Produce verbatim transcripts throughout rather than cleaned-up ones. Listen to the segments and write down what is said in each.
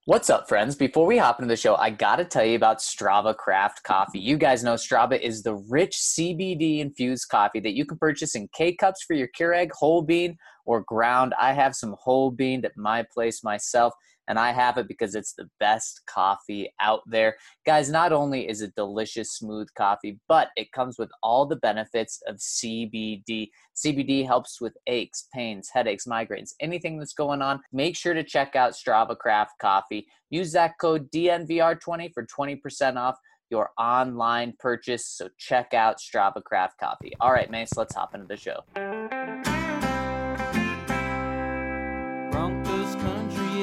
What's up, friends? Before we hop into the show, I got to tell you about Strava Craft Coffee. You guys know Strava is the rich C B D-infused coffee that you can purchase in K-Cups for your Keurig, whole bean, or ground. I have some whole bean at my place myself, and I have it because it's the best coffee out there. Guys, not only is it delicious, smooth coffee, but it comes with all the benefits of C B D. C B D helps with aches, pains, headaches, migraines, anything that's going on. Make sure to check out Strava Craft Coffee. Use that code D N V R twenty for twenty percent off your online purchase. So check out Strava Craft Coffee. All right, Mace, let's hop into the show. Broncos country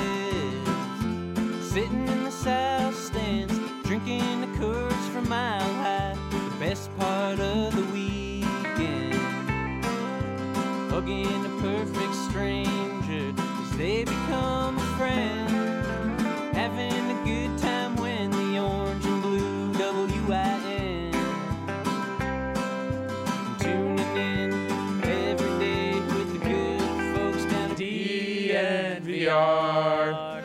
is sitting in the south stands, drinking the Coors from Mile High. The best part of the weekend, hugging a perfect stranger as they become a friend. Having a good time when the orange and blue W I N. Tuning in every day with the good folks down at D N V R.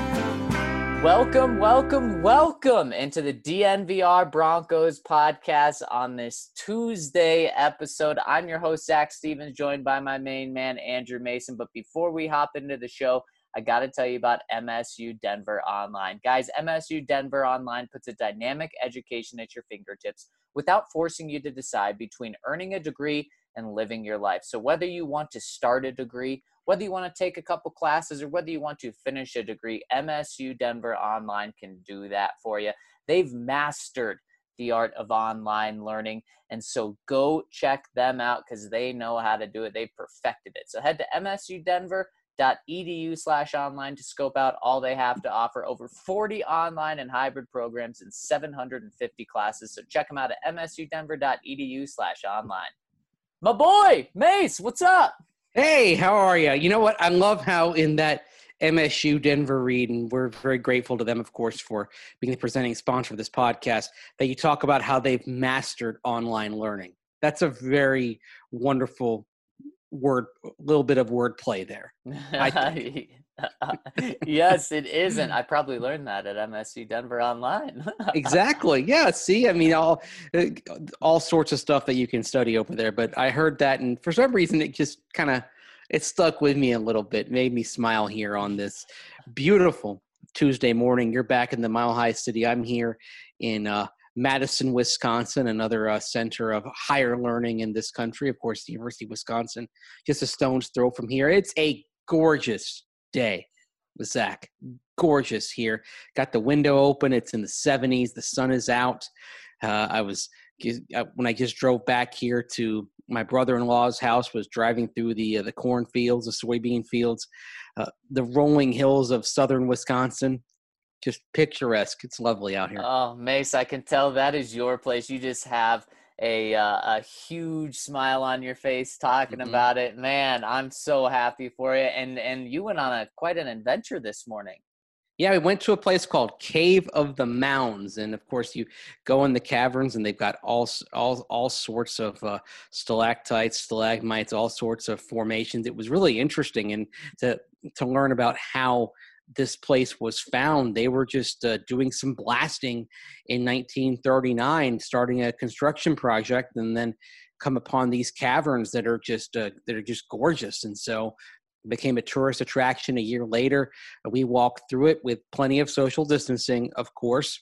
Welcome, welcome, welcome into the D N V R Broncos podcast on this Tuesday episode. I'm your host, Zach Stevens, joined by my main man, Andrew Mason. But before we hop into the show, I got to tell you about M S U Denver Online. Guys, M S U Denver Online puts a dynamic education at your fingertips without forcing you to decide between earning a degree and living your life. So whether you want to start a degree, whether you want to take a couple classes, or whether you want to finish a degree, M S U Denver Online can do that for you. They've mastered the art of online learning, and so go check them out because they know how to do it. They've perfected it. So head to M S U Denver dot E D U slash online to scope out all they have to offer. Over forty online and hybrid programs and seven hundred fifty classes. So check them out at M S U Denver dot E D U slash online. My boy, Mace, what's up? Hey, how are you? You know what? I love how in that M S U Denver read, and we're very grateful to them, of course, for being the presenting sponsor of this podcast, that you talk about how they've mastered online learning. That's a very wonderful word, little bit of wordplay there. I think. Yes, it is, and I probably learned that at M S U Denver Online. Exactly. Yeah. See, I mean, all all sorts of stuff that you can study over there. But I heard that, and for some reason, it just kind of it stuck with me a little bit, made me smile here on this beautiful Tuesday morning. You're back in the Mile High City. I'm here in uh, Madison, Wisconsin, another uh, center of higher learning in this country. Of course, the University of Wisconsin, just a stone's throw from here. It's a gorgeous day, Zach. Gorgeous here. Got the window open. It's in the seventies. The sun is out. Uh, I was when I just drove back here to my brother-in-law's house. Was driving through the uh, the cornfields, the soybean fields, uh, the rolling hills of southern Wisconsin. Just picturesque. It's lovely out here. Oh, Mace, I can tell that is your place. You just have a uh, a huge smile on your face talking Mm-hmm. about it. Man, I'm so happy for you. And and you went on a quite an adventure this morning. Yeah, we went to a place called Cave of the Mounds, and of course, you go in the caverns, and they've got all all all sorts of uh, stalactites, stalagmites, all sorts of formations. It was really interesting, and to to learn about how this place was found. They were just uh, doing some blasting in nineteen thirty-nine, starting a construction project, and then come upon these caverns that are just uh, that are just gorgeous, and so it became a tourist attraction. A year later, we walked through it with plenty of social distancing, of course,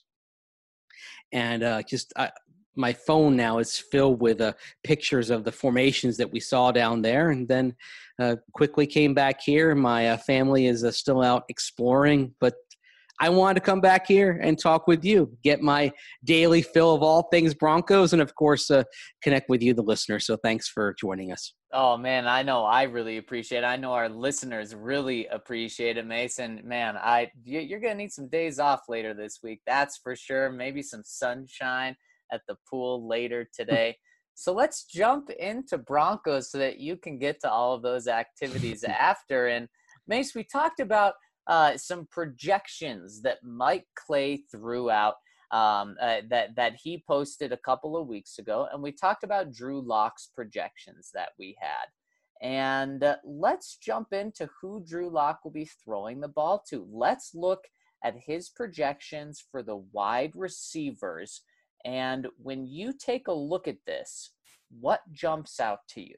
and uh, just. Uh, my phone now is filled with uh, pictures of the formations that we saw down there, and then uh, quickly came back here. My uh, family is uh, still out exploring, but I wanted to come back here and talk with you, get my daily fill of all things Broncos, and of course, uh, connect with you, the listener. So thanks for joining us. Oh, man, I know I really appreciate it. I know our listeners really appreciate it, Mason. Man, I you're going to need some days off later this week. That's for sure. Maybe some sunshine at the pool later today. So let's jump into Broncos so that you can get to all of those activities after. And Mace, we talked about uh, some projections that Mike Clay threw out um, uh, that, that he posted a couple of weeks ago. And we talked about Drew Lock's projections that we had. And uh, let's jump into who Drew Lock will be throwing the ball to. Let's look at his projections for the wide receivers. And when you take a look at this, what jumps out to you?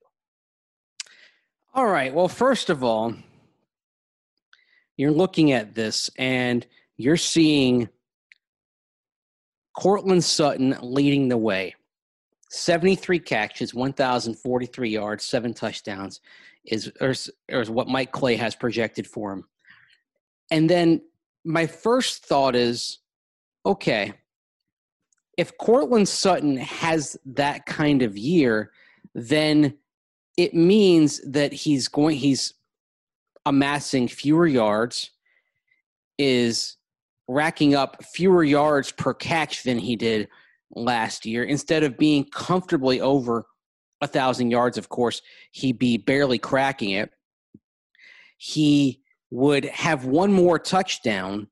All right. Well, first of all, you're looking at this and you're seeing Courtland Sutton leading the way. seventy-three catches, one thousand forty-three yards, seven touchdowns is, is, is what Mike Clay has projected for him. And then my first thought is, okay, if Courtland Sutton has that kind of year, then it means that he's going, he's amassing fewer yards, is racking up fewer yards per catch than he did last year. Instead of being comfortably over a thousand yards, of course, he'd be barely cracking it. He would have one more touchdown.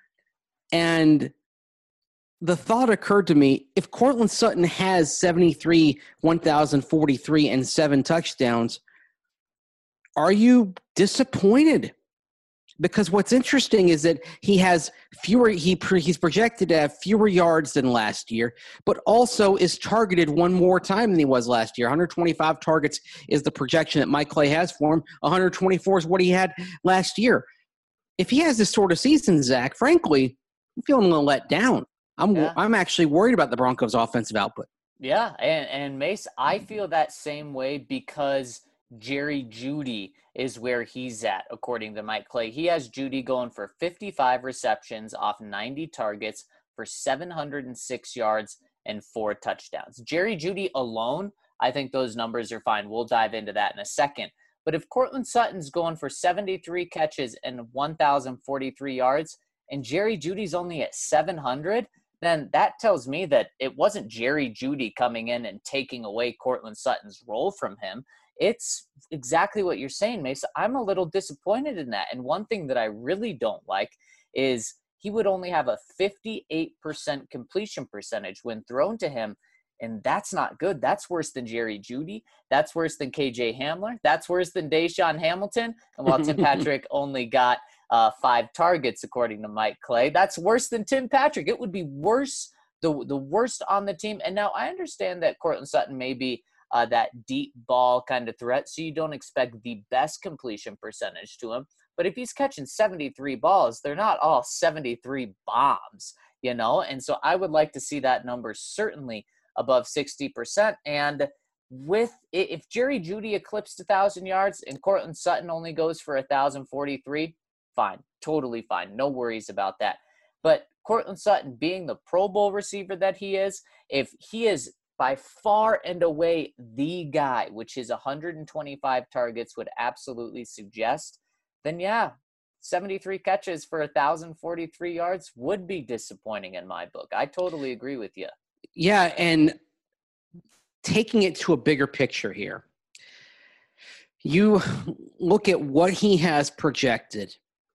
And the thought occurred to me, if Courtland Sutton has seventy-three, one thousand forty-three, and seven touchdowns, are you disappointed? Because what's interesting is that he has fewer, he he's projected to have fewer yards than last year, but also is targeted one more time than he was last year. one hundred twenty-five targets is the projection that Mike Clay has for him. one hundred twenty-four is what he had last year. If he has this sort of season, Zach, frankly, I'm feeling a little let down. I'm yeah. I'm actually worried about the Broncos' offensive output. Yeah, and, and Mace, I feel that same way because Jerry Jeudy is where he's at, according to Mike Clay. He has Jeudy going for fifty-five receptions off ninety targets for seven hundred six yards and four touchdowns. Jerry Jeudy alone, I think those numbers are fine. We'll dive into that in a second. But if Courtland Sutton's going for seventy-three catches and one thousand forty-three yards, and Jerry Jeudy's only at seven hundred, then that tells me that it wasn't Jerry Jeudy coming in and taking away Courtland Sutton's role from him. It's exactly what you're saying, Mace. I'm a little disappointed in that. And one thing that I really don't like is he would only have a fifty-eight percent completion percentage when thrown to him. And that's not good. That's worse than Jerry Jeudy. That's worse than K J Hamler. That's worse than Deshaun Hamilton. And while Tim Patrick only got uh, five targets, according to Mike Clay, that's worse than Tim Patrick. It would be worse, the, the worst on the team. And now I understand that Courtland Sutton may be Uh, that deep ball kind of threat, so you don't expect the best completion percentage to him. But if he's catching seventy-three balls, they're not all seventy-three bombs, you know? And so I would like to see that number certainly above sixty percent. And with if Jerry Jeudy eclipsed one thousand yards and Courtland Sutton only goes for one thousand forty-three, fine, totally fine. No worries about that. But Courtland Sutton being the Pro Bowl receiver that he is, if he is by far and away the guy, which his one hundred twenty-five targets would absolutely suggest, then yeah, seventy-three catches for one thousand forty-three yards would be disappointing in my book. I totally agree with you. Yeah, and taking it to a bigger picture here, you look at what he has projected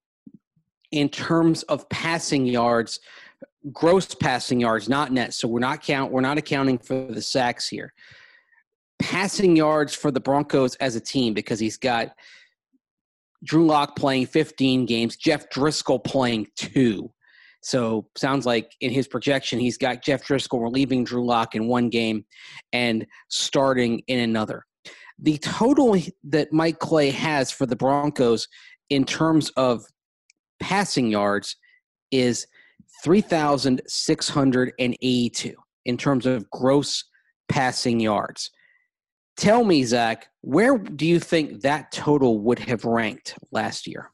in terms of passing yards, gross passing yards, not net. So we're not count. We're not accounting for the sacks here. Passing yards for the Broncos as a team, because he's got Drew Lock playing fifteen games, Jeff Driscoll playing two. So sounds like in his projection, he's got Jeff Driscoll relieving Drew Lock in one game and starting in another. The total that Mike Clay has for the Broncos in terms of passing yards is three thousand six hundred eighty-two in terms of gross passing yards. Tell me, Zach, where do you think that total would have ranked last year?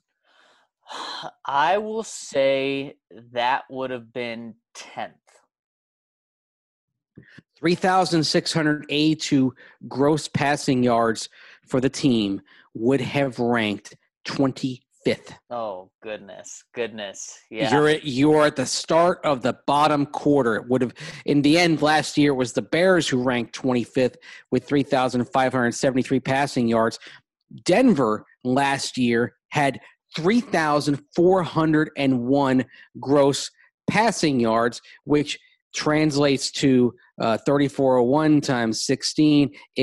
I will say that would have been tenth. three thousand six hundred eighty-two gross passing yards for the team would have ranked twenty-fifth. Oh, goodness. Goodness. Yeah. You're at, you're at the start of the bottom quarter. It would have, in the end, last year it was the Bears who ranked twenty-fifth with three thousand five hundred seventy-three passing yards. Denver last year had three thousand four hundred one gross passing yards, which translates to uh, thirty-four oh one times sixteen is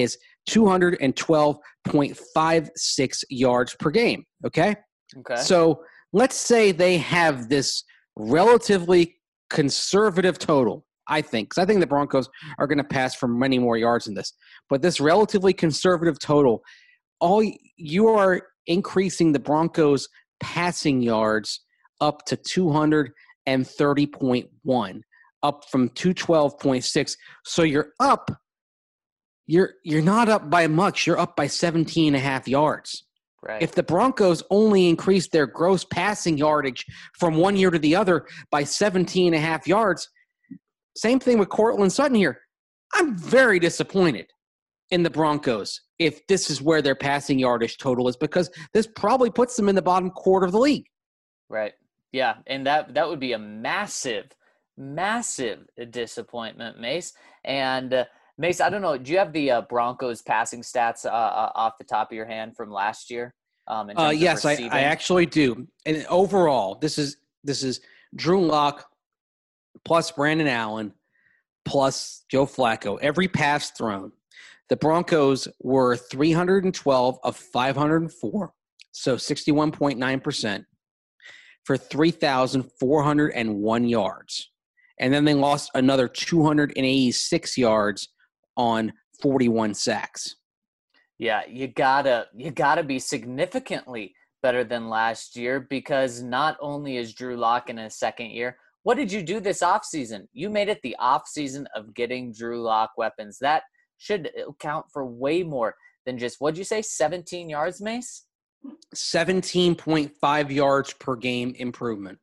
two twelve point five six yards per game. Okay? Okay. So let's say they have this relatively conservative total, I think, because I think the Broncos are going to pass for many more yards than this. But this relatively conservative total, all you are increasing the Broncos' passing yards up to two thirty point one, up from two twelve point six. So you're up. You're you're not up by much. You're up by seventeen and a half yards. Right. If the Broncos only increased their gross passing yardage from one year to the other by seventeen and a half yards, same thing with Courtland Sutton here. I'm very disappointed in the Broncos if this is where their passing yardage total is, because this probably puts them in the bottom quarter of the league. Right. Yeah, and that that would be a massive, massive disappointment, Mace. And uh, Mace, I don't know, do you have the uh, Broncos passing stats uh, uh, off the top of your hand from last year? Um, in terms uh, of yes, I, receiving? I actually do. And overall, this is this is Drew Lock plus Brandon Allen plus Joe Flacco. Every pass thrown, the Broncos were three hundred twelve of five hundred four, so sixty-one point nine percent, for three thousand four hundred one yards. And then they lost another two hundred eighty-six yards on forty-one sacks. Yeah, you gotta you gotta be significantly better than last year, because not only is Drew Lock in his second year, what did you do this offseason? You made it the offseason of getting Drew Lock weapons. That should count for way more than just, what'd you say, seventeen yards, Mace? seventeen point five yards per game improvement.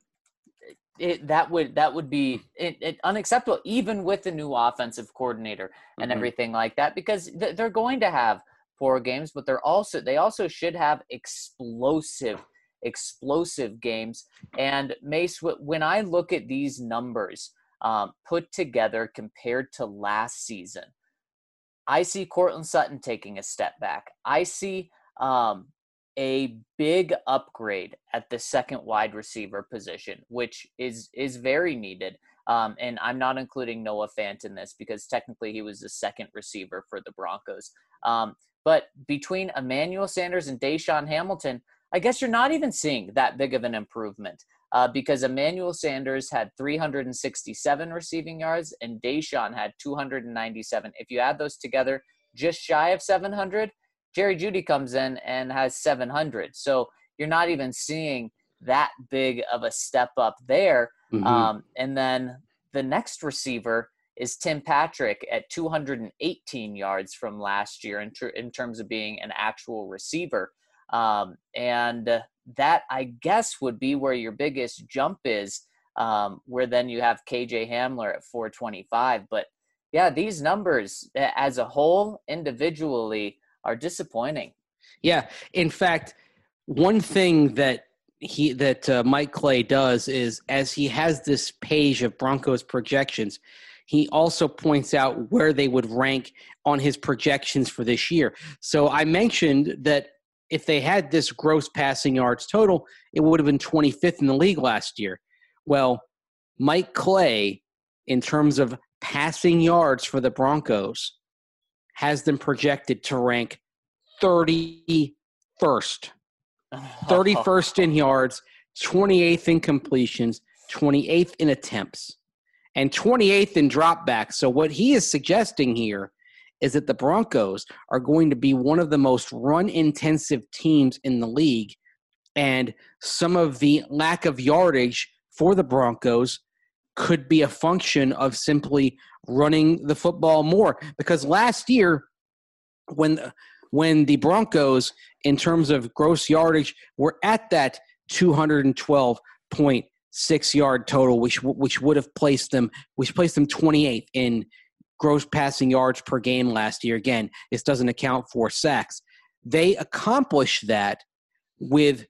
It, that would that would be it, it unacceptable, even with the new offensive coordinator and Mm-hmm. everything like that, because th- they're going to have poor games, but they're also they also should have explosive explosive games. And Mace, when I look at these numbers um, put together compared to last season, I see Courtland Sutton taking a step back. I see um, a big upgrade at the second wide receiver position, which is is very needed. Um, and I'm not including Noah Fant in this, because technically he was the second receiver for the Broncos. Um, but between Emmanuel Sanders and Deshaun Hamilton, I guess you're not even seeing that big of an improvement, uh, because Emmanuel Sanders had three hundred sixty-seven receiving yards and Deshaun had two hundred ninety-seven. If you add those together, just shy of seven hundred. Jerry Jeudy comes in and has seven hundred. So you're not even seeing that big of a step up there. Mm-hmm. Um, and then the next receiver is Tim Patrick at two hundred eighteen yards from last year in, tr- in terms of being an actual receiver. Um, and that, I guess, would be where your biggest jump is, um, where then you have K J Hamler at four twenty-five. But, yeah, these numbers as a whole, individually, are disappointing. Yeah. In fact, one thing that he that uh, Mike Clay does is, as he has this page of Broncos projections, he also points out where they would rank on his projections for this year. So I mentioned that if they had this gross passing yards total, it would have been twenty-fifth in the league last year. Well, Mike Clay, in terms of passing yards for the Broncos, has them projected to rank thirty-first. thirty-first in yards, twenty-eighth in completions, twenty-eighth in attempts, and twenty-eighth in dropbacks. So what he is suggesting here is that the Broncos are going to be one of the most run-intensive teams in the league, and some of the lack of yardage for the Broncos could be a function of simply running the football more. Because last year, when the, when the Broncos, in terms of gross yardage, were at that two twelve point six yard total, which which would have placed them, which placed them twenty-eighth in gross passing yards per game last year. Again, this doesn't account for sacks. They accomplished that with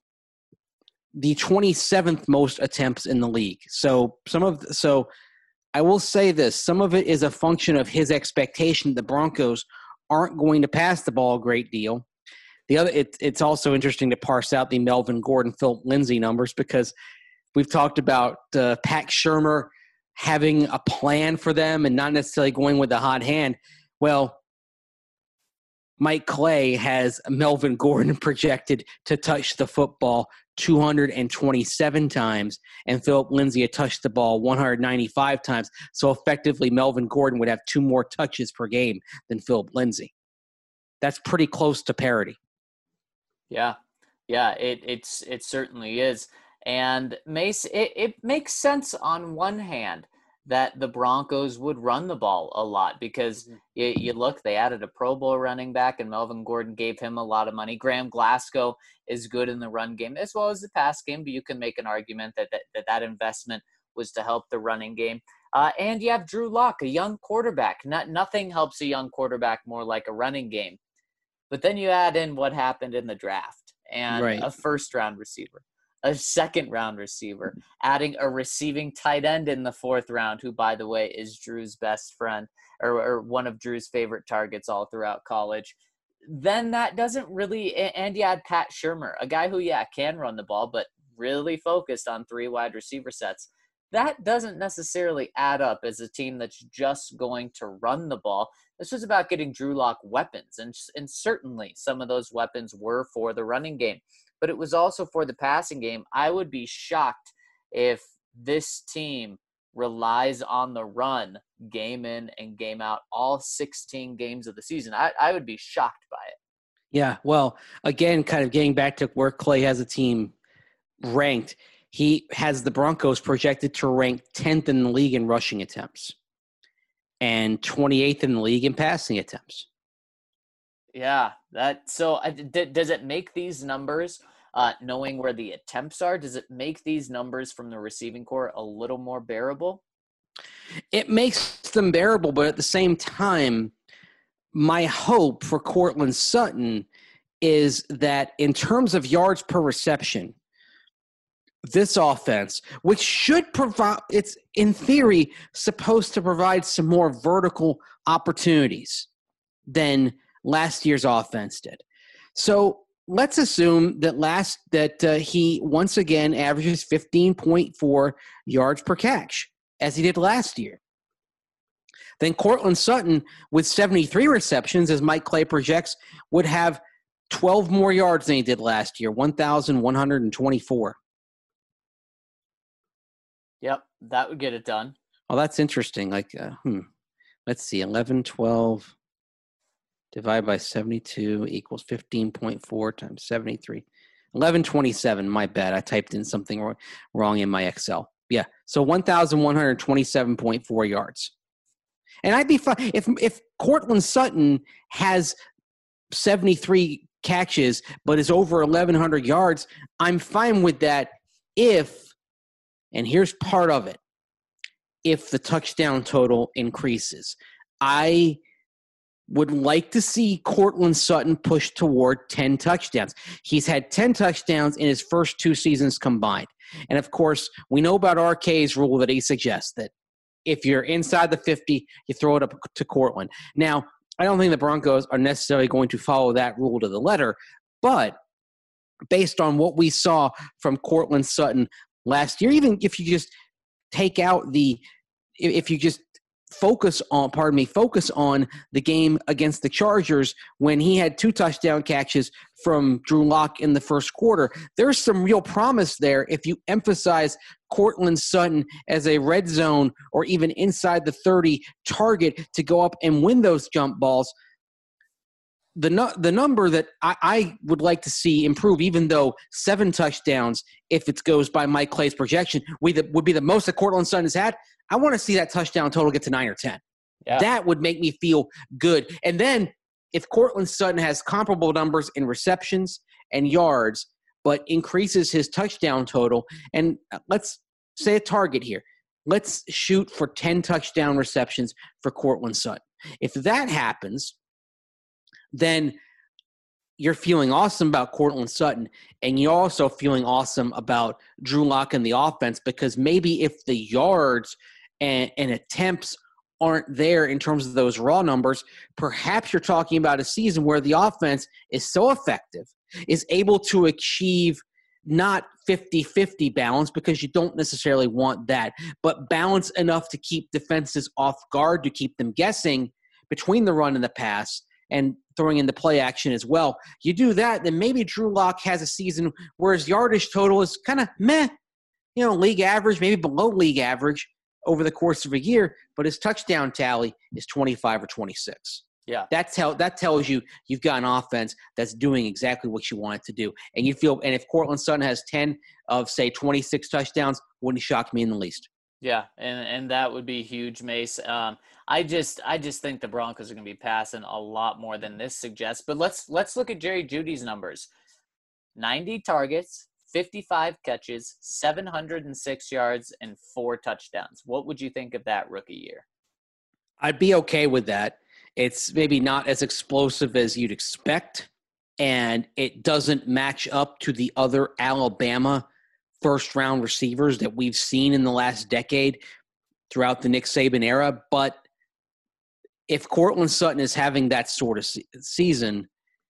the twenty-seventh most attempts in the league. So some of so I will say this, some of it is a function of his expectation the Broncos aren't going to pass the ball a great deal. The other, it, it's also interesting to parse out the Melvin Gordon, Philip Lindsay numbers, because we've talked about uh, Pat Shurmur having a plan for them and not necessarily going with the hot hand. Well, Mike Clay has Melvin Gordon projected to touch the football two hundred twenty-seven times, and Philip Lindsay had touched the ball one hundred ninety-five times. So effectively, Melvin Gordon would have two more touches per game than Philip Lindsay. That's pretty close to parity. Yeah, yeah, it it's it certainly is. And Mace, it, it makes sense on one hand that the Broncos would run the ball a lot because you, you look, they added a Pro Bowl running back and Melvin Gordon gave him a lot of money. Graham Glasgow is good in the run game as well as the pass game, but you can make an argument that that, that, that investment was to help the running game. Uh, and you have Drew Lock, a young quarterback. Not, nothing helps a young quarterback more like a running game. But then you add in what happened in the draft and Right. a first-round receiver, a second-round receiver, adding a receiving tight end in the fourth round, who, by the way, is Drew's best friend or, or one of Drew's favorite targets all throughout college. Then that doesn't really – and you add Pat Shurmur, a guy who, yeah, can run the ball, but really focused on three wide receiver sets. That doesn't necessarily add up as a team that's just going to run the ball. This was about getting Drew Lock weapons, and, and certainly some of those weapons were for the running game, but it was also for the passing game. I would be shocked if this team relies on the run game in and game out all sixteen games of the season. I, I would be shocked by it. Yeah, well, again, kind of getting back to where Clay has a team ranked, he has the Broncos projected to rank tenth in the league in rushing attempts and twenty-eighth in the league in passing attempts. Yeah, that so uh, d- does it make these numbers, uh, knowing where the attempts are, does it make these numbers from the receiving core a little more bearable? It makes them bearable, but at the same time, my hope for Courtland Sutton is that in terms of yards per reception, this offense, which should provide, it's in theory supposed to provide some more vertical opportunities than last year's offense did. So let's assume that last that uh, he once again averages fifteen point four yards per catch as he did last year. Then Courtland Sutton with seventy-three receptions, as Mike Clay projects, would have twelve more yards than he did last year, one thousand one hundred twenty-four. Yep, that would get it done. Oh, that's interesting. Like, uh, hmm. Let's see, eleven, twelve divided by seventy-two equals fifteen point four times seventy-three. eleven twenty-seven, my bad. I typed in something wrong, wrong in my Excel. Yeah, so one thousand one hundred twenty-seven point four yards. And I'd be fine if if Courtland Sutton has seventy-three catches but is over eleven hundred yards, I'm fine with that if, and here's part of it, if the touchdown total increases. I would like to see Courtland Sutton push toward ten touchdowns. He's had ten touchdowns in his first two seasons combined. And, of course, we know about R K's rule that he suggests that if you're inside the fifty, you throw it up to Courtland. Now, I don't think the Broncos are necessarily going to follow that rule to the letter, but based on what we saw from Courtland Sutton last year, even if you just take out the – if you just focus on, pardon me, focus on the game against the Chargers when he had two touchdown catches from Drew Lock in the first quarter. There's some real promise there if you emphasize Courtland Sutton as a red zone or even inside the thirty target to go up and win those jump balls. The nu- the number that I, I would like to see improve, even though seven touchdowns, if it goes by Mike Clay's projection, would, the, would be the most that Courtland Sutton has had. I want to see that touchdown total get to nine or ten. Yeah. That would make me feel good. And then if Courtland Sutton has comparable numbers in receptions and yards, but increases his touchdown total, and let's say a target here. Let's shoot for ten touchdown receptions for Courtland Sutton. If that happens, then you're feeling awesome about Courtland Sutton, and you're also feeling awesome about Drew Lock and the offense, because maybe if the yards and, and attempts aren't there in terms of those raw numbers, perhaps you're talking about a season where the offense is so effective, is able to achieve not fifty-fifty balance, because you don't necessarily want that, but balance enough to keep defenses off guard, to keep them guessing between the run and the pass, and throwing in the play action as well. You do that, then maybe Drew Lock has a season where his yardage total is kind of meh, you know, league average, maybe below league average over the course of a year, but his touchdown tally is twenty-five or twenty-six. Yeah. That tell that tells you you've got an offense that's doing exactly what you want it to do. And you feel and if Courtland Sutton has ten of say twenty-six touchdowns, wouldn't shock me in the least. Yeah, and and that would be huge, Mace. Um, I just I just think the Broncos are going to be passing a lot more than this suggests. But let's let's look at Jerry Jeudy's numbers: ninety targets, fifty-five catches, seven hundred six yards, and four touchdowns. What would you think of that rookie year? I'd be okay with that. It's maybe not as explosive as you'd expect, and it doesn't match up to the other Alabama first-round receivers that we've seen in the last decade throughout the Nick Saban era. But if Courtland Sutton is having that sort of se- season,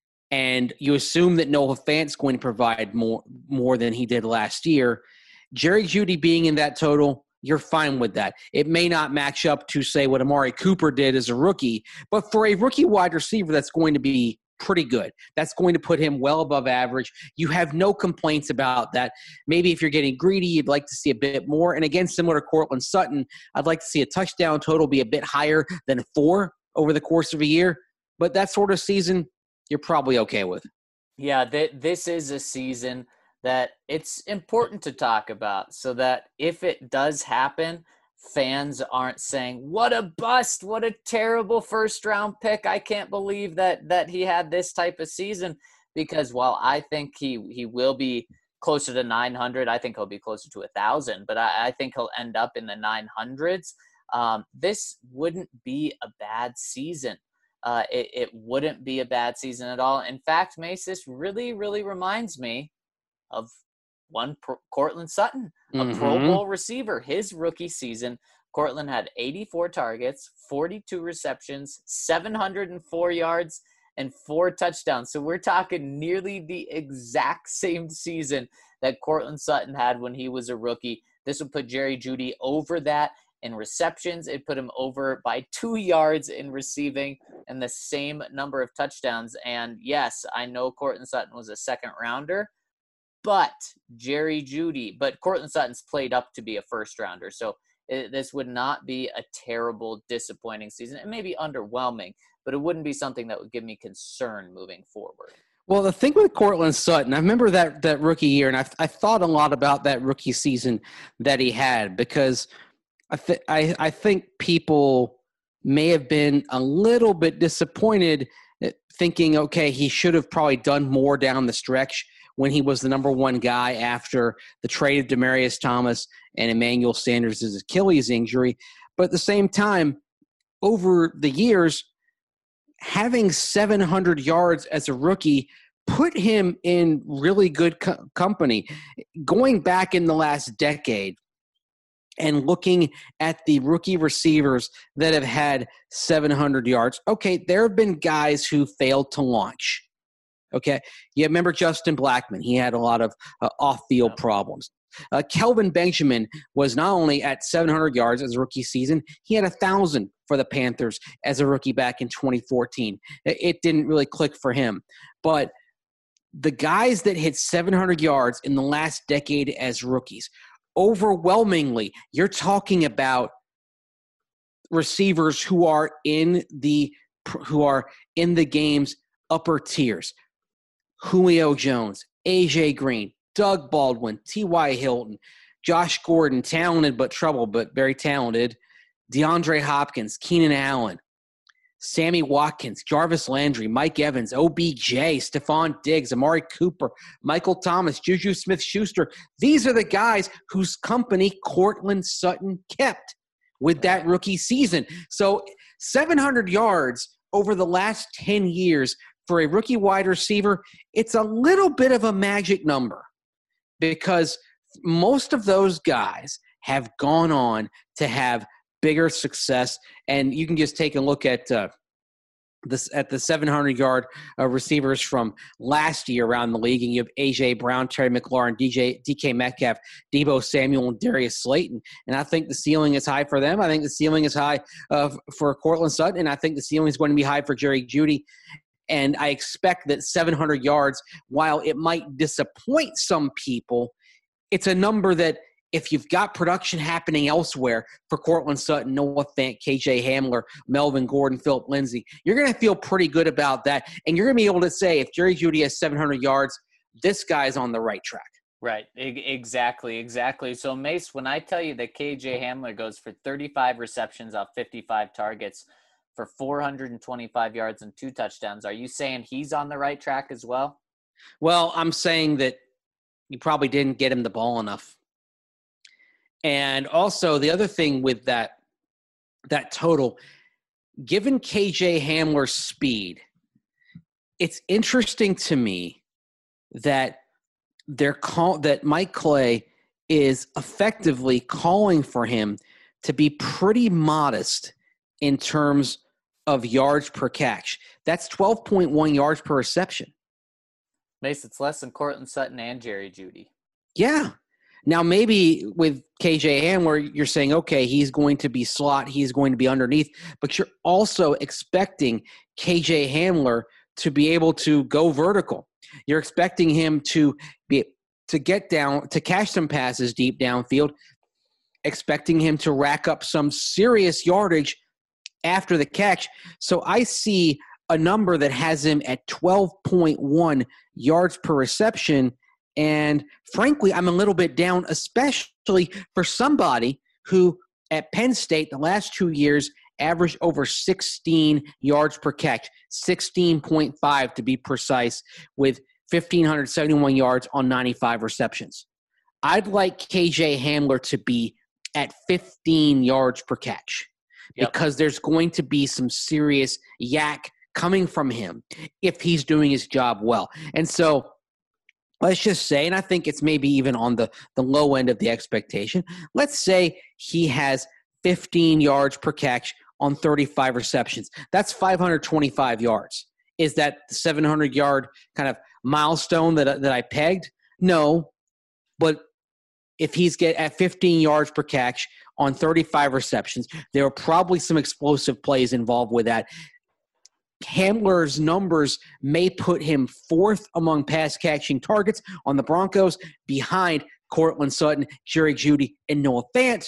and you assume that Noah Fant's going to provide more more than he did last year, Jerry Jeudy being in that total, you're fine with that. It may not match up to, say, what Amari Cooper did as a rookie, but for a rookie wide receiver, that's going to be pretty good. That's going to put him well above average. You have no complaints about that. Maybe if you're getting greedy, you'd like to see a bit more. And again, similar to Courtland Sutton, I'd like to see a touchdown total be a bit higher than four over the course of a year. But that sort of season, you're probably okay with. Yeah, th- this is a season that it's important to talk about so that if it does happen, fans aren't saying, what a bust, what a terrible first round pick. I can't believe that that he had this type of season. Because while I think he, he will be closer to nine hundred, I think he'll be closer to one thousand, but I, I think he'll end up in the nine hundreds. Um, this wouldn't be a bad season. Uh, it, it wouldn't be a bad season at all. In fact, Mace, this really, really reminds me of one Pro- Courtland Sutton, a Mm-hmm. Pro Bowl receiver. His rookie season, Courtland had eighty-four targets, forty-two receptions, seven hundred four yards, and four touchdowns. So we're talking nearly the exact same season that Courtland Sutton had when he was a rookie. This would put Jerry Jeudy over that in receptions. It put him over by two yards in receiving and the same number of touchdowns. And yes, I know Courtland Sutton was a second rounder, but Jerry Jeudy, but Courtland Sutton's played up to be a first rounder. So it, this would not be a terrible, disappointing season. It may be underwhelming, but it wouldn't be something that would give me concern moving forward. Well, the thing with Courtland Sutton, I remember that that rookie year, and I, I thought a lot about that rookie season that he had because I, th- I, I think people may have been a little bit disappointed thinking, okay, he should have probably done more down the stretch when he was the number one guy after the trade of Demaryius Thomas and Emmanuel Sanders' Achilles injury. But at the same time, over the years, having seven hundred yards as a rookie put him in really good co- company. Going back in the last decade and looking at the rookie receivers that have had seven hundred yards, okay, there have been guys who failed to launch. Okay, you remember Justin Blackmon. He had a lot of uh, off-field yeah. problems. Uh, Kelvin Benjamin was not only at seven hundred yards as a rookie season, he had one thousand for the Panthers as a rookie back in twenty fourteen. It didn't really click for him. But the guys that hit seven hundred yards in the last decade as rookies, overwhelmingly, you're talking about receivers who are in the who are in the game's upper tiers. Julio Jones, A J Green, Doug Baldwin, T Y Hilton, Josh Gordon, talented but troubled, but very talented, DeAndre Hopkins, Keenan Allen, Sammy Watkins, Jarvis Landry, Mike Evans, O B J, Stephon Diggs, Amari Cooper, Michael Thomas, Juju Smith-Schuster. These are the guys whose company Courtland Sutton kept with that rookie season. So seven hundred yards over the last ten years for a rookie wide receiver, it's a little bit of a magic number because most of those guys have gone on to have bigger success. And you can just take a look at uh, this at the seven hundred yard uh, receivers from last year around the league. And you have A J Brown, Terry McLaurin, D J, D K Metcalf, Deebo Samuel, and Darius Slayton. And I think the ceiling is high for them. I think the ceiling is high uh, for Courtland Sutton. And I think the ceiling is going to be high for Jerry Jeudy. And I expect that seven hundred yards, while it might disappoint some people, it's a number that if you've got production happening elsewhere for Courtland Sutton, Noah Fant, K J Hamler, Melvin Gordon, Philip Lindsay, you're going to feel pretty good about that. And you're going to be able to say, if Jerry Jeudy has seven hundred yards, this guy's on the right track. Right. E- exactly. Exactly. So, Mace, when I tell you that K J Hamler goes for thirty-five receptions off fifty-five targets for four hundred twenty-five yards and two touchdowns, are you saying he's on the right track as well? Well, I'm saying that you probably didn't get him the ball enough. And also the other thing with that, that total, given K J Hamler's speed, it's interesting to me that they're call that Mike Clay is effectively calling for him to be pretty modest in terms of yards per catch. That's twelve point one yards per reception. Mace, it's less than Courtland Sutton and Jerry Jeudy. Yeah. Now, maybe with K J Hamler, you're saying, okay, he's going to be slot, he's going to be underneath, but you're also expecting K J Hamler to be able to go vertical. You're expecting him to be to get down, to catch some passes deep downfield, expecting him to rack up some serious yardage after the catch. So I see a number that has him at twelve point one yards per reception. And frankly, I'm a little bit down, especially for somebody who at Penn State the last two years averaged over sixteen yards per catch, sixteen point five to be precise, with one thousand five hundred seventy-one yards on ninety-five receptions. I'd like K J Hamler to be at fifteen yards per catch Yep. because there's going to be some serious yak coming from him if he's doing his job well. And so let's just say, and I think it's maybe even on the, the low end of the expectation, let's say he has fifteen yards per catch on thirty-five receptions. That's five hundred twenty-five yards. Is that the seven hundred yard kind of milestone that, that I pegged? No, but if he's get at fifteen yards per catch on thirty-five receptions, there are probably some explosive plays involved with that. Hamler's numbers may put him fourth among pass catching targets on the Broncos, behind Courtland Sutton, Jerry Jeudy, and Noah Fant.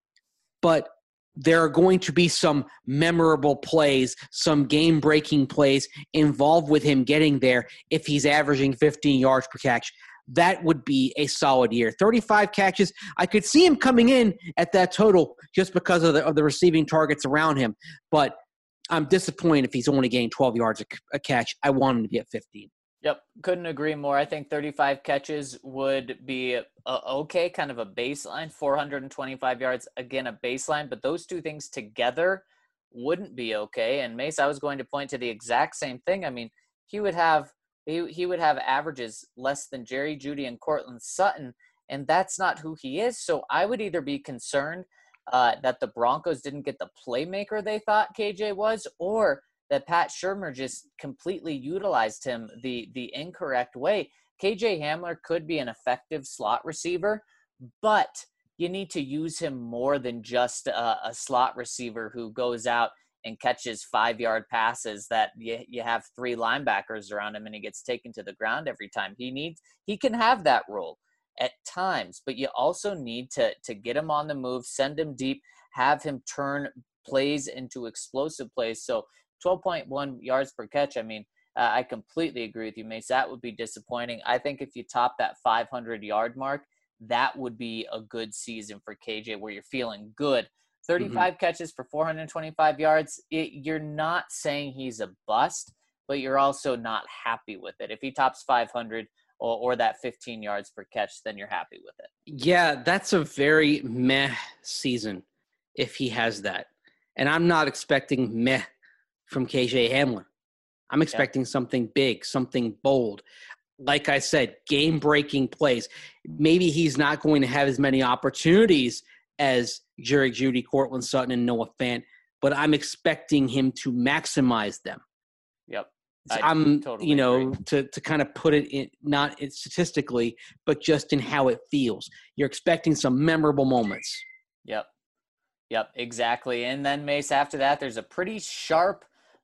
But there are going to be some memorable plays, some game-breaking plays involved with him getting there if he's averaging fifteen yards per catch. That would be a solid year. thirty-five catches. I could see him coming in at that total just because of the, of the receiving targets around him. But I'm disappointed if he's only getting twelve yards a, a catch. I want him to be at fifteen. Yep, couldn't agree more. I think thirty-five catches would be a, okay, kind of a baseline. four hundred twenty-five yards, again, a baseline. But those two things together wouldn't be okay. And Mace, I was going to point to the exact same thing. I mean, he would have he, he would have averages less than Jerry Jeudy and Courtland Sutton, and that's not who he is. So I would either be concerned uh, that the Broncos didn't get the playmaker they thought K J was, or that Pat Shurmur just completely utilized him the the incorrect way. K J Hamler could be an effective slot receiver, but you need to use him more than just a, a slot receiver who goes out and catches five-yard passes that you, you have three linebackers around him and he gets taken to the ground every time. He needs he can have that role at times, but you also need to to get him on the move, send him deep, have him turn plays into explosive plays. So twelve point one yards per catch, I mean, uh, I completely agree with you, Mace. That would be disappointing. I think if you top that five hundred yard mark, that would be a good season for K J where you're feeling good. thirty-five mm-hmm. catches for four hundred twenty-five yards, it, you're not saying he's a bust, but you're also not happy with it. If he tops five hundred or, or that fifteen yards per catch, then you're happy with it. Yeah, that's a very meh season if he has that. And I'm not expecting meh from K J Hamler. I'm expecting yeah. something big, something bold. Like I said, game-breaking plays. Maybe he's not going to have as many opportunities as Jerry Jeudy, Courtland Sutton, and Noah Fant, but I'm expecting him to maximize them. Yep. So I'm, totally you know, agree. to to kind of put it in, not statistically, but just in how it feels. You're expecting some memorable moments. Yep. Yep, exactly. And then, Mace, after that, there's a pretty sharp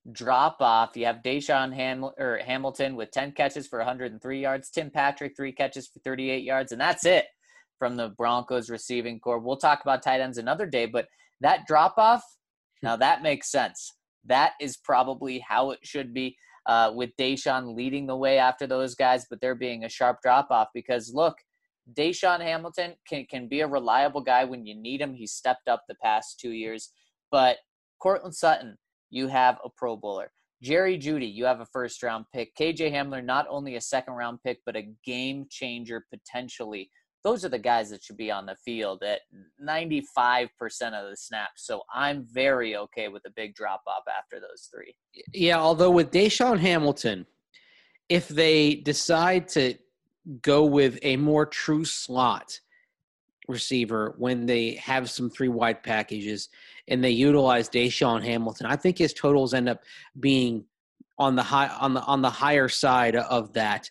drop off. You have Deshaun Ham- or Hamilton with ten catches for one hundred three yards. Tim Patrick, three catches for thirty-eight yards. And that's it from the Broncos receiving corps. We'll talk about tight ends another day, but that drop off, now that makes sense. That is probably how it should be, uh, with Deshaun leading the way after those guys, but there being a sharp drop off because look, Deshaun Hamilton can, can be a reliable guy when you need him. He's stepped up the past two years, but Courtland Sutton, you have a Pro Bowler. Jerry Jeudy, you have a first round pick. K J Hamler, not only a second round pick, but a game changer potentially. Those are the guys that should be on the field at ninety-five percent of the snaps. So I'm very okay with a big drop-off after those three. Yeah, although with Deshaun Hamilton, if they decide to go with a more true slot receiver when they have some three-wide packages and they utilize Deshaun Hamilton, I think his totals end up being on the high on the on the higher side of that.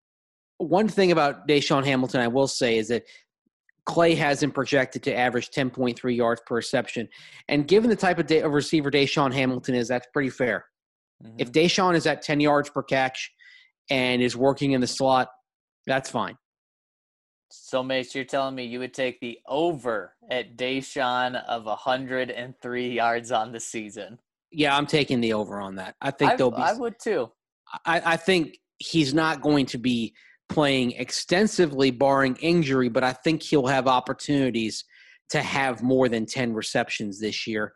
One thing about Deshaun Hamilton I will say is that Clay has him projected to average ten point three yards per reception. And given the type of, de- of receiver Deshaun Hamilton is, that's pretty fair. Mm-hmm. If Deshaun is at ten yards per catch and is working in the slot, that's fine. So, Mace, you're telling me you would take the over at Deshaun of one hundred three yards on the season? Yeah, I'm taking the over on that. I think I, there'll be. I would too. I, I think he's not going to be playing extensively barring injury, but I think he'll have opportunities to have more than ten receptions this year.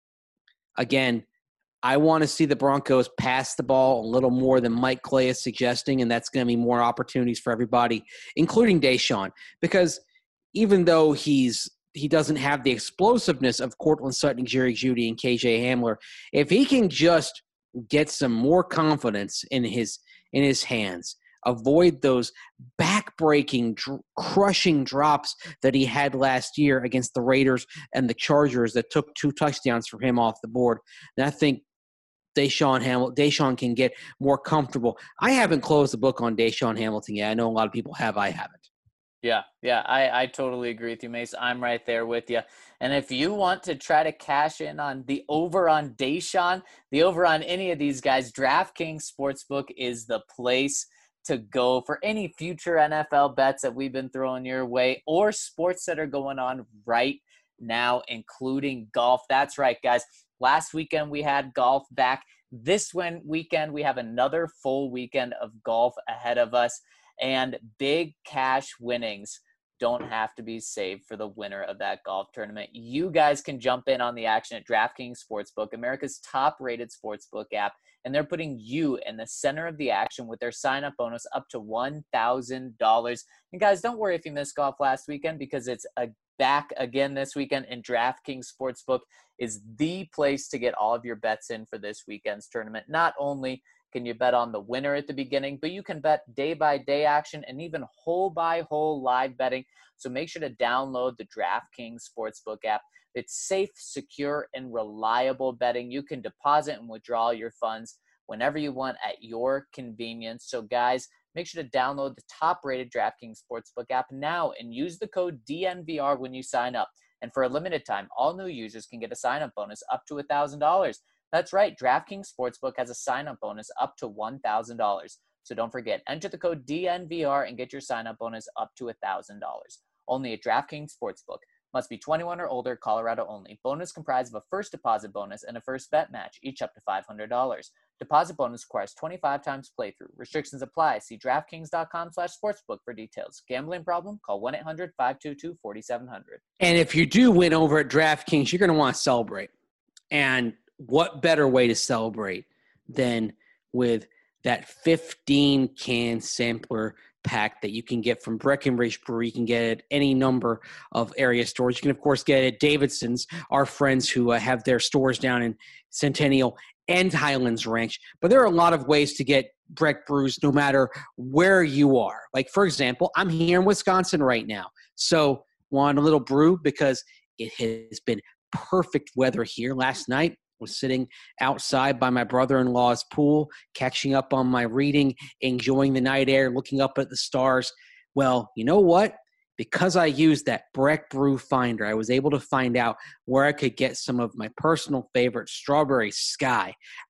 Again, I want to see the Broncos pass the ball a little more than Mike Clay is suggesting, and that's going to be more opportunities for everybody, including Deshaun, because even though he's he doesn't have the explosiveness of Courtland Sutton, Jerry Jeudy, and K J Hamler, if he can just get some more confidence in his in his hands, avoid those back-breaking, dr- crushing drops that he had last year against the Raiders and the Chargers that took two touchdowns from him off the board. And I think Deshaun Hamilton, Deshaun can get more comfortable. I haven't closed the book on Deshaun Hamilton yet. I know a lot of people have. I haven't. Yeah, yeah, I, I totally agree with you, Mace. I'm right there with you. And if you want to try to cash in on the over on Deshaun, the over on any of these guys, DraftKings Sportsbook is the place to go for any future N F L bets that we've been throwing your way or sports that are going on right now, including golf. That's right, guys. Last weekend we had golf back. This one weekend we have another full weekend of golf ahead of us, and big cash winnings don't have to be saved for the winner of that golf tournament. You guys can jump in on the action at DraftKings Sportsbook, America's top-rated sportsbook app, and they're putting you in the center of the action with their sign-up bonus up to one thousand dollars. And guys, don't worry if you missed golf last weekend, because it's a back again this weekend, and DraftKings Sportsbook is the place to get all of your bets in for this weekend's tournament. Not only can you bet on the winner at the beginning, but you can bet day-by-day action and even hole-by-hole live betting. So make sure to download the DraftKings Sportsbook app. It's safe, secure, and reliable betting. You can deposit and withdraw your funds whenever you want at your convenience. So guys, make sure to download the top-rated DraftKings Sportsbook app now and use the code D N V R when you sign up. And for a limited time, all new users can get a sign-up bonus up to one thousand dollars. That's right, DraftKings Sportsbook has a sign-up bonus up to one thousand dollars. So don't forget, enter the code D N V R and get your sign-up bonus up to one thousand dollars. Only at DraftKings Sportsbook. Must be twenty-one or older, Colorado only. Bonus comprised of a first deposit bonus and a first bet match, each up to five hundred dollars. Deposit bonus requires twenty-five times playthrough. Restrictions apply. See DraftKings.com slash sportsbook for details. Gambling problem? Call one eight hundred five two two four seven zero zero. And if you do win over at DraftKings, you're going to want to celebrate. And what better way to celebrate than with that fifteen-can sampler pack that you can get from Breckenridge Brewery. You can get it at any number of area stores. You can, of course, get it at Davidson's, our friends who uh, have their stores down in Centennial and Highlands Ranch. But there are a lot of ways to get Breck brews no matter where you are. Like, for example, I'm here in Wisconsin right now. So want a little brew because it has been perfect weather here. Last night, was sitting outside by my brother-in-law's pool, catching up on my reading, enjoying the night air, looking up at the stars. Well, you know what? Because I used that Breck Brew Finder, I was able to find out where I could get some of my personal favorite Strawberry Sky,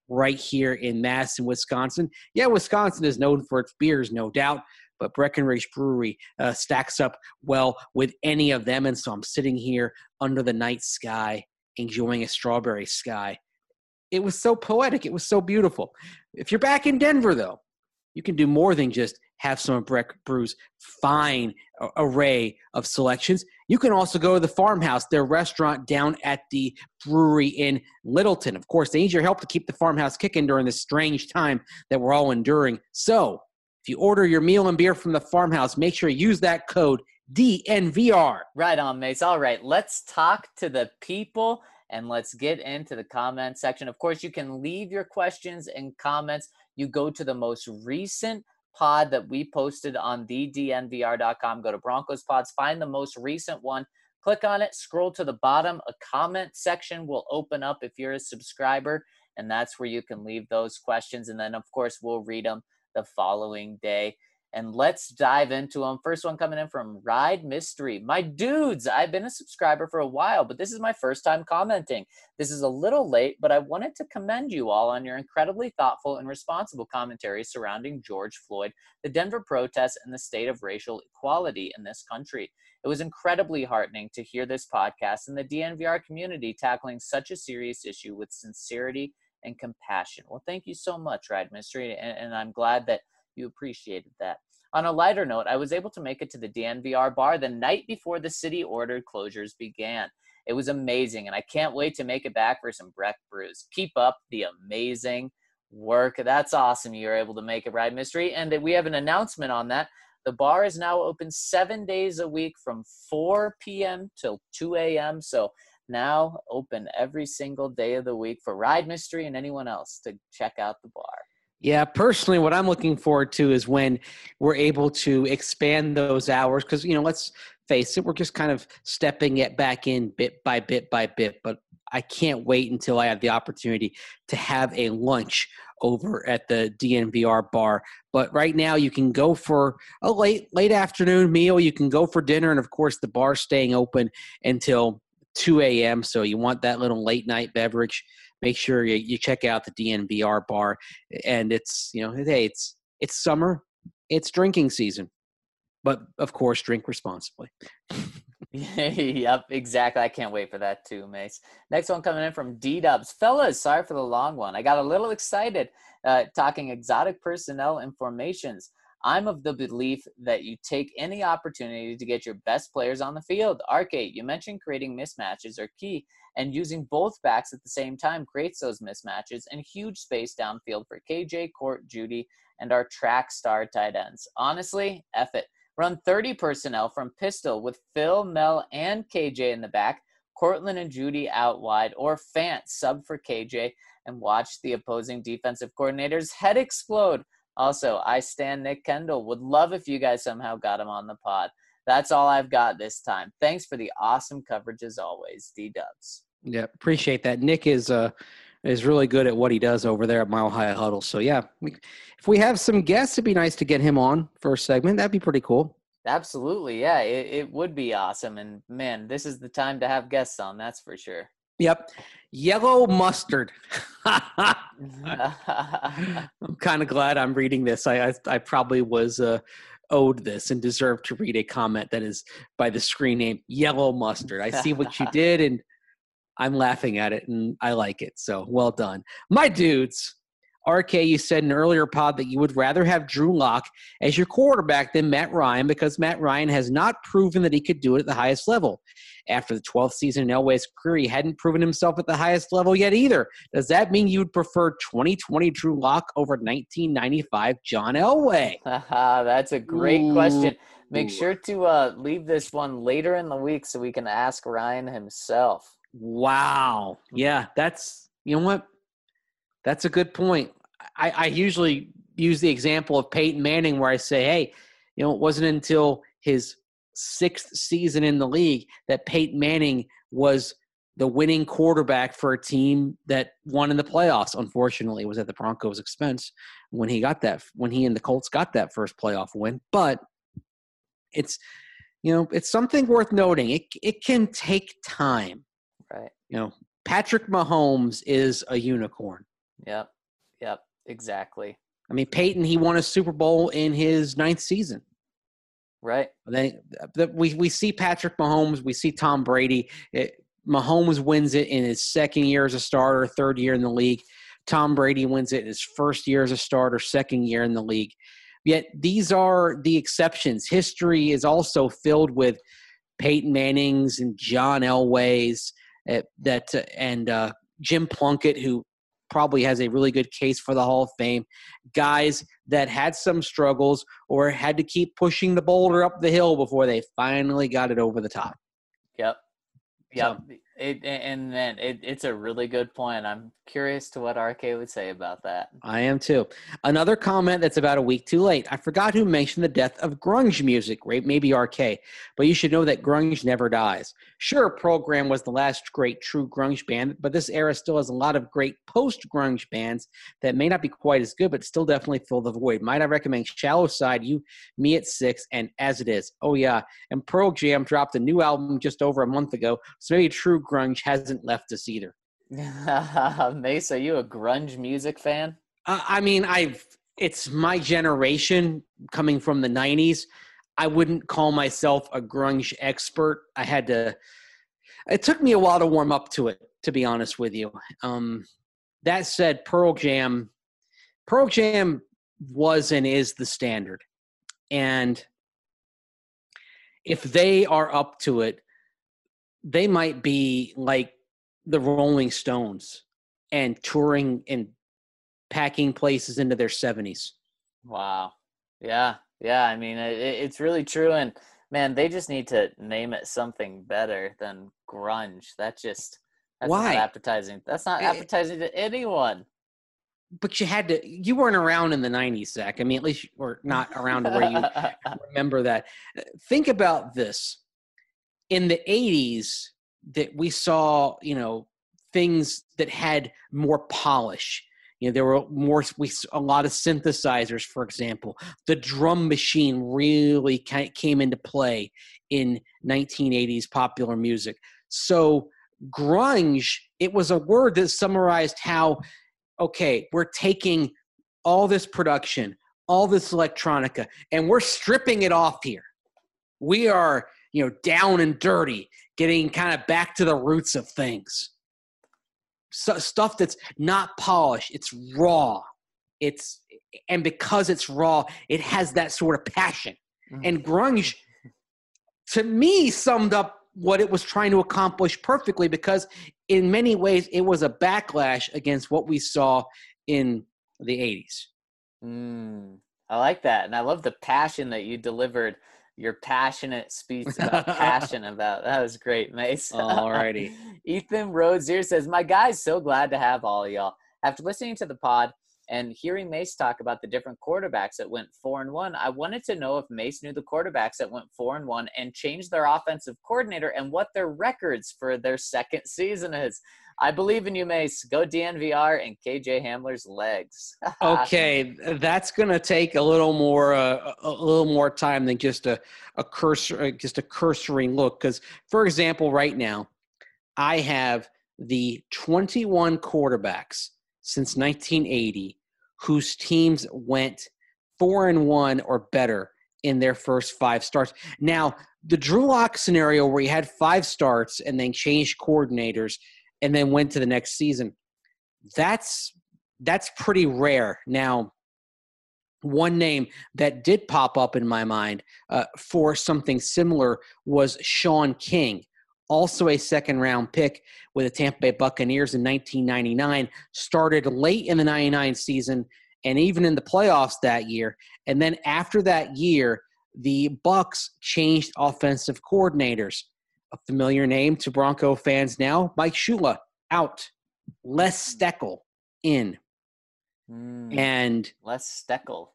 right here in Madison, Wisconsin. Yeah, Wisconsin is known for its beers, no doubt, but Breckenridge Brewery uh, stacks up well with any of them. And so I'm sitting here under the night sky, enjoying a strawberry sky. It was so poetic. It was so beautiful. If you're back in Denver, though, you can do more than just have some of Breck Brew's fine array of selections. You can also go to the Farmhouse, their restaurant down at the brewery in Littleton. Of course, they need your help to keep the Farmhouse kicking during this strange time that we're all enduring. So if you order your meal and beer from the Farmhouse, make sure you use that code D N V R. Right on, Mace. All right, let's talk to the people and let's get into the comment section. Of course, you can leave your questions and comments. You go to the most recent pod that we posted on the D N V R dot com. Go to Broncos Pods, find the most recent one, click on it, scroll to the bottom. A comment section will open up if you're a subscriber, and that's where you can leave those questions. And then, of course, we'll read them the following day. And let's dive into them. First one coming in from Ride Mystery. My dudes, I've been a subscriber for a while, but this is my first time commenting. This is a little late, but I wanted to commend you all on your incredibly thoughtful and responsible commentary surrounding George Floyd, the Denver protests, and the state of racial equality in this country. It was incredibly heartening to hear this podcast and the D N V R community tackling such a serious issue with sincerity and compassion. Well, thank you so much, Ride Mystery, and, and I'm glad that you appreciated that. On a lighter note, I was able to make it to the D N V R bar the night before the city-ordered closures began. It was amazing, and I can't wait to make it back for some Breck brews. Keep up the amazing work. That's awesome you were able to make it, Ride Mystery. And we have an announcement on that. The bar is now open seven days a week from four p.m. till two a.m., so now open every single day of the week for Ride Mystery and anyone else to check out the bar. Yeah, personally, what I'm looking forward to is when we're able to expand those hours because, you know, let's face it, we're just kind of stepping it back in bit by bit by bit. But I can't wait until I have the opportunity to have a lunch over at the D N V R bar. But right now you can go for a late, late afternoon meal. You can go for dinner. And, of course, the bar's staying open until two a.m. So you want that little late night beverage. Make sure you, you check out the D N V R bar. And it's, you know, hey, it's it's summer. It's drinking season. But, of course, drink responsibly. Yep, exactly. I can't wait for that too, Mace. Next one coming in from D-Dubs. Fellas, sorry for the long one. I got a little excited uh, talking exotic personnel and formations. I'm of the belief that you take any opportunity to get your best players on the field. Arcade, you mentioned creating mismatches are key, and using both backs at the same time creates those mismatches and huge space downfield for K J, Court, Judy, and our track star tight ends. Honestly, F it. Run thirty personnel from pistol with Phil, Mel, and K J in the back, Cortland and Judy out wide, or Fant sub for K J, and watch the opposing defensive coordinator's head explode. Also, I stand Nick Kendall. Would love if you guys somehow got him on the pod. That's all I've got this time. Thanks for the awesome coverage as always, D-Dubs. Yeah, appreciate that. Nick is uh is really good at what he does over there at Mile High Huddle. So, yeah, we, if we have some guests, it'd be nice to get him on for a segment. That'd be pretty cool. Absolutely, yeah, it, it would be awesome. And, man, this is the time to have guests on, that's for sure. Yep. Yellow mustard. I'm kind of glad I'm reading this. I I, I probably was uh, owed this and deserved to read a comment that is by the screen name Yellow Mustard. I see what you did, and I'm laughing at it, and I like it. So well done. My dudes, R K, you said in an earlier pod that you would rather have Drew Lock as your quarterback than Matt Ryan because Matt Ryan has not proven that he could do it at the highest level. After the twelfth season in Elway's career, he hadn't proven himself at the highest level yet either. Does that mean you would prefer twenty twenty Drew Lock over nineteen ninety-five John Elway? That's a great Ooh. question. Make Ooh. sure to uh, leave this one later in the week so we can ask Ryan himself. Wow. Yeah, that's, you know what? That's a good point. I, I usually use the example of Peyton Manning where I say, hey, you know, it wasn't until his sixth season in the league that Peyton Manning was the winning quarterback for a team that won in the playoffs. Unfortunately, it was at the Broncos' expense when he got that, when he and the Colts got that first playoff win. But it's, you know, it's something worth noting. It it can take time. Right. You know, Patrick Mahomes is a unicorn. Yeah. Exactly. I mean, Peyton, he won a Super Bowl in his ninth season. Right. Then we we see Patrick Mahomes, we see Tom Brady. It, Mahomes wins it in his second year as a starter, third year in the league. Tom Brady wins it in his first year as a starter, second year in the league. Yet these are the exceptions. History is also filled with Peyton Mannings and John Elways uh, that uh, and uh, Jim Plunkett, who probably has a really good case for the Hall of Fame. Guys that had some struggles or had to keep pushing the boulder up the hill before they finally got it over the top. Yep. Yep. So, it, and then it, it's a really good point. I'm curious to what R K would say about that. I am too. Another comment that's about a week too late. I forgot to mention the death of grunge music, right? Maybe R K, but you should know that grunge never dies. Sure, Program was the last great true grunge band, but this era still has a lot of great post-grunge bands that may not be quite as good, but still definitely fill the void. Might I recommend Shallow Side, You, Me at Six, and As It Is. Oh yeah, and Pearl Jam dropped a new album just over a month ago, so maybe true grunge hasn't left us either. Mace, are you a grunge music fan? Uh, I mean, I've it's my generation coming from the nineties. I wouldn't call myself a grunge expert. I had to – it took me a while to warm up to it, to be honest with you. Um, that said, Pearl Jam – Pearl Jam was and is the standard. And if they are up to it, they might be like the Rolling Stones and touring and packing places into their seventies. Wow. Yeah. Yeah. I mean, it, it's really true. And man, they just need to name it something better than grunge. That just, that's Why? not appetizing. That's not appetizing to anyone. But you had to, you weren't around in the nineties, Zach. I mean, at least you were not around to where you remember that. Think about this. In the eighties, that we saw, you know, things that had more polish. You know, there were more, we, a lot of synthesizers, for example. The drum machine really came into play in nineteen eighties popular music. So grunge, it was a word that summarized how, okay, we're taking all this production, all this electronica, and we're stripping it off here. We are, you know, down and dirty, getting kind of back to the roots of things. So, stuff that's not polished, it's raw. It's and because it's raw, it has that sort of passion. Mm-hmm. And grunge, to me, summed up what it was trying to accomplish perfectly, because in many ways it was a backlash against what we saw in the eighties. Mm, I like that, and I love the passion that you delivered. Your passionate speech about passion about that was great, Mace. Alrighty. Ethan Rhodes here says, "My guys, so glad to have all of y'all. After listening to the pod and hearing Mace talk about the different quarterbacks that went four and one, I wanted to know if Mace knew the quarterbacks that went four and one and changed their offensive coordinator and what their records for their second season is. I believe in you, Mace. Go D N V R and K J Hamler's legs." Okay, that's going to take a little more uh, a little more time than just a a cursor just a cursory look, because, for example, right now I have the twenty-one quarterbacks since nineteen eighty whose teams went four and one or better in their first five starts. Now, the Drew Lock scenario where he had five starts and then changed coordinators and then went to the next season, that's that's pretty rare. Now, one name that did pop up in my mind uh, for something similar was Sean King, also a second-round pick with the Tampa Bay Buccaneers in nineteen ninety-nine, started late in the ninety-nine season and even in the playoffs that year. And then after that year, the Bucs changed offensive coordinators. A familiar name to Bronco fans now, Mike Shula, out. Les Steckel, in. Mm, and Les Steckel.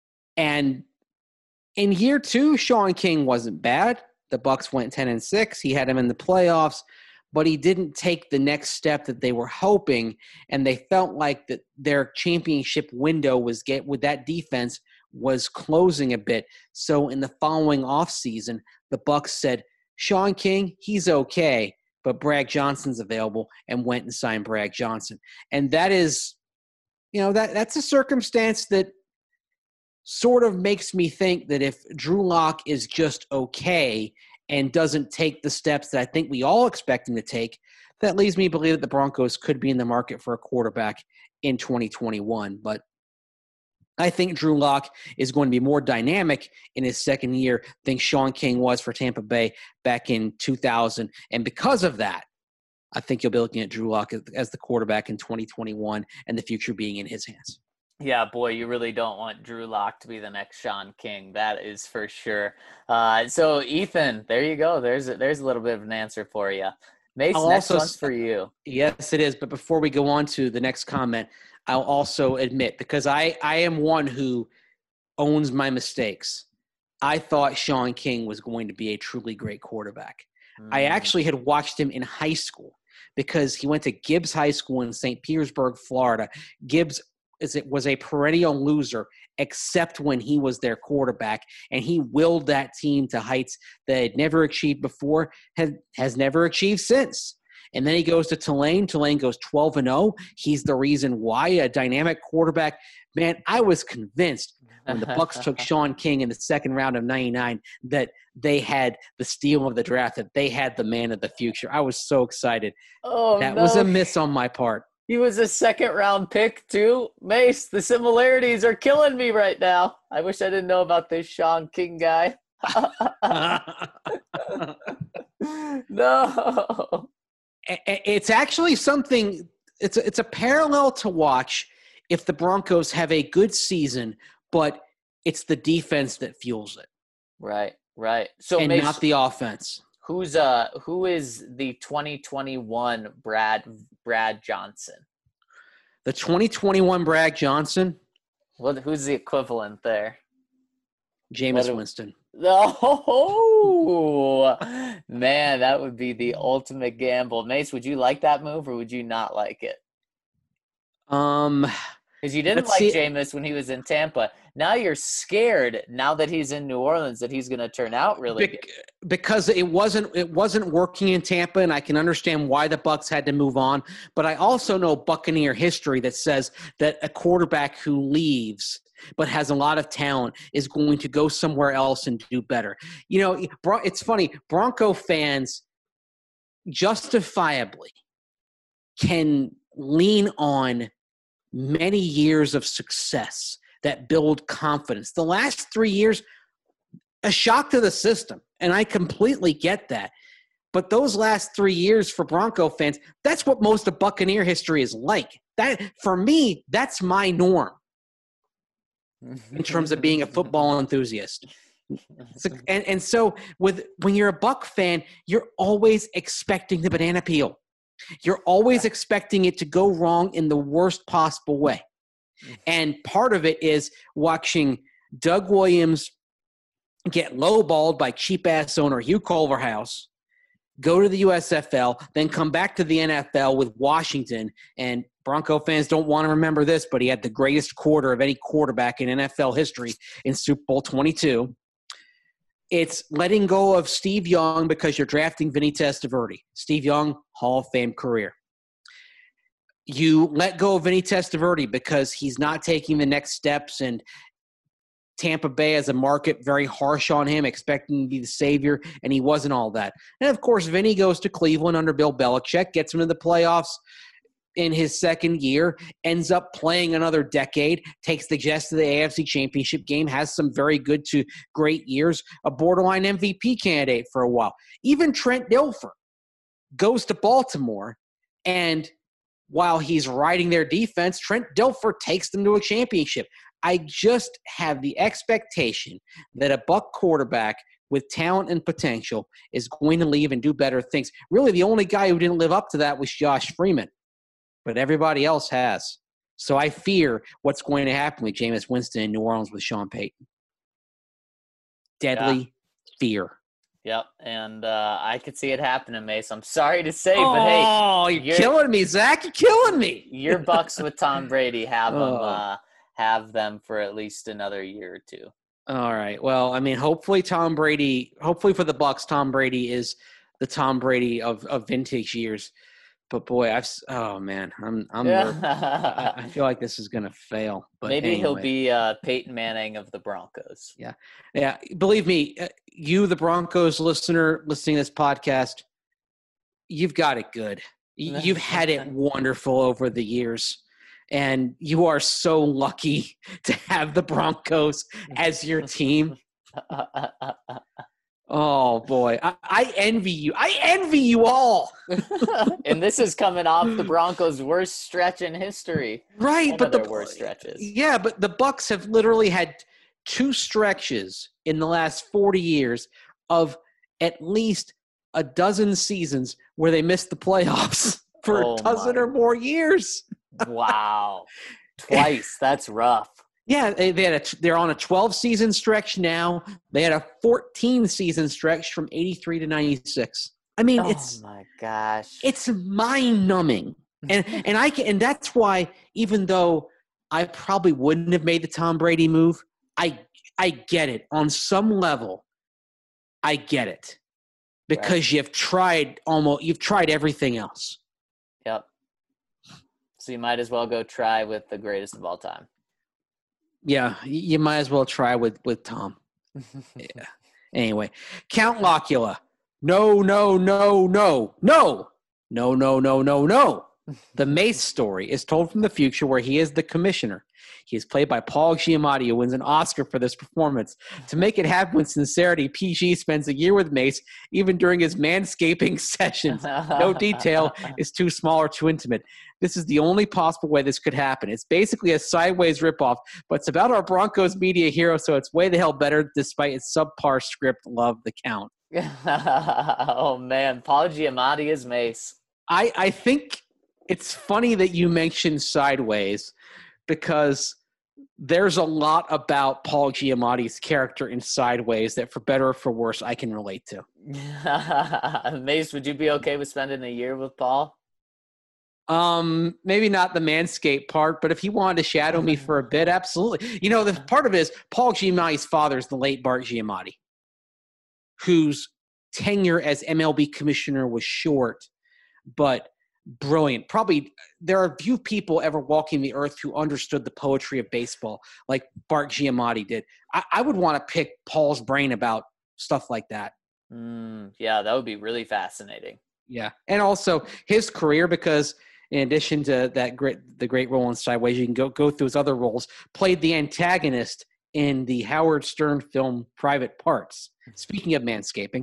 And in year two, Sean King wasn't bad. The Bucs went ten and six. He had him in the playoffs, but he didn't take the next step that they were hoping, and they felt like that their championship window was get with that defense was closing a bit. So in the following offseason, the Bucs said, Sean King, he's okay, but Bragg Johnson's available, and went and signed Bragg Johnson. And that is you know, that that's a circumstance that sort of makes me think that if Drew Lock is just okay and doesn't take the steps that I think we all expect him to take, that leads me to believe that the Broncos could be in the market for a quarterback in twenty twenty-one. But I think Drew Lock is going to be more dynamic in his second year than Sean King was for Tampa Bay back in two thousand. And because of that, I think you'll be looking at Drew Lock as, as the quarterback in twenty twenty-one and the future being in his hands. Yeah, boy, you really don't want Drew Lock to be the next Sean King. That is for sure. Uh, so, Ethan, there you go. There's a, there's a little bit of an answer for you. Mace, I'll next also, one's for you. Yes, it is. But before we go on to the next comment, I'll also admit, because I, I am one who owns my mistakes, I thought Sean King was going to be a truly great quarterback. Mm. I actually had watched him in high school because he went to Gibbs High School in Saint Petersburg, Florida. Gibbs is it was a perennial loser except when he was their quarterback, and he willed that team to heights that had never achieved before, has, has never achieved since. And then he goes to Tulane. Tulane goes twelve and oh. He's the reason why, a dynamic quarterback. Man, I was convinced when the Bucs took Sean King in the second round of ninety-nine that they had the steal of the draft, that they had the man of the future. I was so excited. Oh, that no. was a miss on my part. He was a second round pick too. Mace, the similarities are killing me right now. I wish I didn't know about this Sean King guy. No. It's actually something, it's a, it's a parallel to watch if the Broncos have a good season, but it's the defense that fuels it. Right, right. So and Mace, not the offense. Who's uh who is the twenty twenty-one Brad Brad Johnson? The twenty twenty-one Brad Johnson? What who's the equivalent there? Jameis what Winston. Oh man, that would be the ultimate gamble. Mace, would you like that move or would you not like it? Um Because you didn't like Jameis when he was in Tampa. Now you're scared now that he's in New Orleans that he's going to turn out really Be- good. Because it wasn't it wasn't working in Tampa, and I can understand why the Bucs had to move on. But I also know Buccaneer history that says that a quarterback who leaves but has a lot of talent is going to go somewhere else and do better. You know, it's funny. Bronco fans justifiably can lean on many years of success that build confidence. The last three years, a shock to the system, and I completely get that. But those last three years for Bronco fans, that's what most of Buccaneer history is like. That, for me, that's my norm in terms of being a football enthusiast. So, and, and so with when you're a Buck fan, you're always expecting the banana peel. You're always expecting it to go wrong in the worst possible way. And part of it is watching Doug Williams get lowballed by cheap-ass owner Hugh Culverhouse, go to the U S F L, then come back to the N F L with Washington. And Bronco fans don't want to remember this, but he had the greatest quarter of any quarterback in N F L history in Super Bowl twenty-two. It's letting go of Steve Young because you're drafting Vinny Testaverde. Steve Young, Hall of Fame career. You let go of Vinny Testaverde because he's not taking the next steps, and Tampa Bay as a market very harsh on him, expecting to be the savior, and he wasn't all that. And, of course, Vinny goes to Cleveland under Bill Belichick, gets him to the playoffs in his second year, ends up playing another decade, takes the Jets to the A F C Championship game, has some very good to great years, a borderline M V P candidate for a while. Even Trent Dilfer goes to Baltimore, and while he's riding their defense, Trent Dilfer takes them to a championship. I just have the expectation that a Buck quarterback with talent and potential is going to leave and do better things. Really, the only guy who didn't live up to that was Josh Freeman, but everybody else has. So I fear what's going to happen with Jameis Winston in New Orleans with Sean Payton. Deadly yeah. fear. Yep, and uh, I could see it happening, Mace. I'm sorry to say, oh, but hey. Oh, you're, you're killing me, Zach. You're killing me. Your Bucks with Tom Brady have oh. them, uh, have them for at least another year or two. All right. Well, I mean, hopefully Tom Brady – hopefully for the Bucks, Tom Brady is the Tom Brady of, of vintage years. but boy, I've s- oh man, I'm I'm nervous. I, I feel like this is gonna fail. But Maybe he'll anyway. be uh, Peyton Manning of the Broncos. Yeah, yeah. Believe me, uh, you, the Broncos listener, listening to this podcast, you've got it good. Y- You've had it wonderful over the years, and you are so lucky to have the Broncos as your team. Oh boy, I, I envy you. I envy you all. And this is coming off the Broncos' worst stretch in history. Right, One but of the their worst stretches. Yeah, but the Bucks have literally had two stretches in the last forty years of at least a dozen seasons where they missed the playoffs for Oh a dozen my- or more years. Wow. Twice. That's rough. Yeah, they, they had a, they're on a twelve season stretch now. They had a fourteen season stretch from eighty-three to ninety-six. I mean, Oh it's my gosh. it's mind numbing. And and I can and that's why even though I probably wouldn't have made the Tom Brady move, I I get it. On some level, I get it. Because Right. you've tried almost you've tried everything else. Yep. So you might as well go try with the greatest of all time. Yeah, you might as well try with, with Tom. Yeah. Anyway, Count Locula. No, no, no, no, no, no, no, no, no, no. The Mace story is told from the future where he is the commissioner. He is played by Paul Giamatti, who wins an Oscar for this performance. To make it happen with sincerity, P G spends a year with Mace, even during his manscaping sessions. No detail is too small or too intimate. This is the only possible way this could happen. It's basically a sideways ripoff, but it's about our Broncos media hero, so it's way the hell better despite its subpar script. Love the Count. Oh, man. Paul Giamatti is Mace. I, I think it's funny that you mentioned sideways because there's a lot about Paul Giamatti's character in Sideways that, for better or for worse, I can relate to. Mace, would you be okay with spending a year with Paul? Um, maybe not the Manscaped part, but if he wanted to shadow me for a bit, absolutely. You know, the part of it is Paul Giamatti's father is the late Bart Giamatti, whose tenure as M L B commissioner was short, but brilliant. Probably there are few people ever walking the earth who understood the poetry of baseball like Bart Giamatti did. I, I would want to pick Paul's brain about stuff like that. Mm, yeah, that would be really fascinating. Yeah, and also his career, because in addition to that great, the great role in Sideways, you can go go through his other roles. Played the antagonist in the Howard Stern film Private Parts. Speaking of manscaping,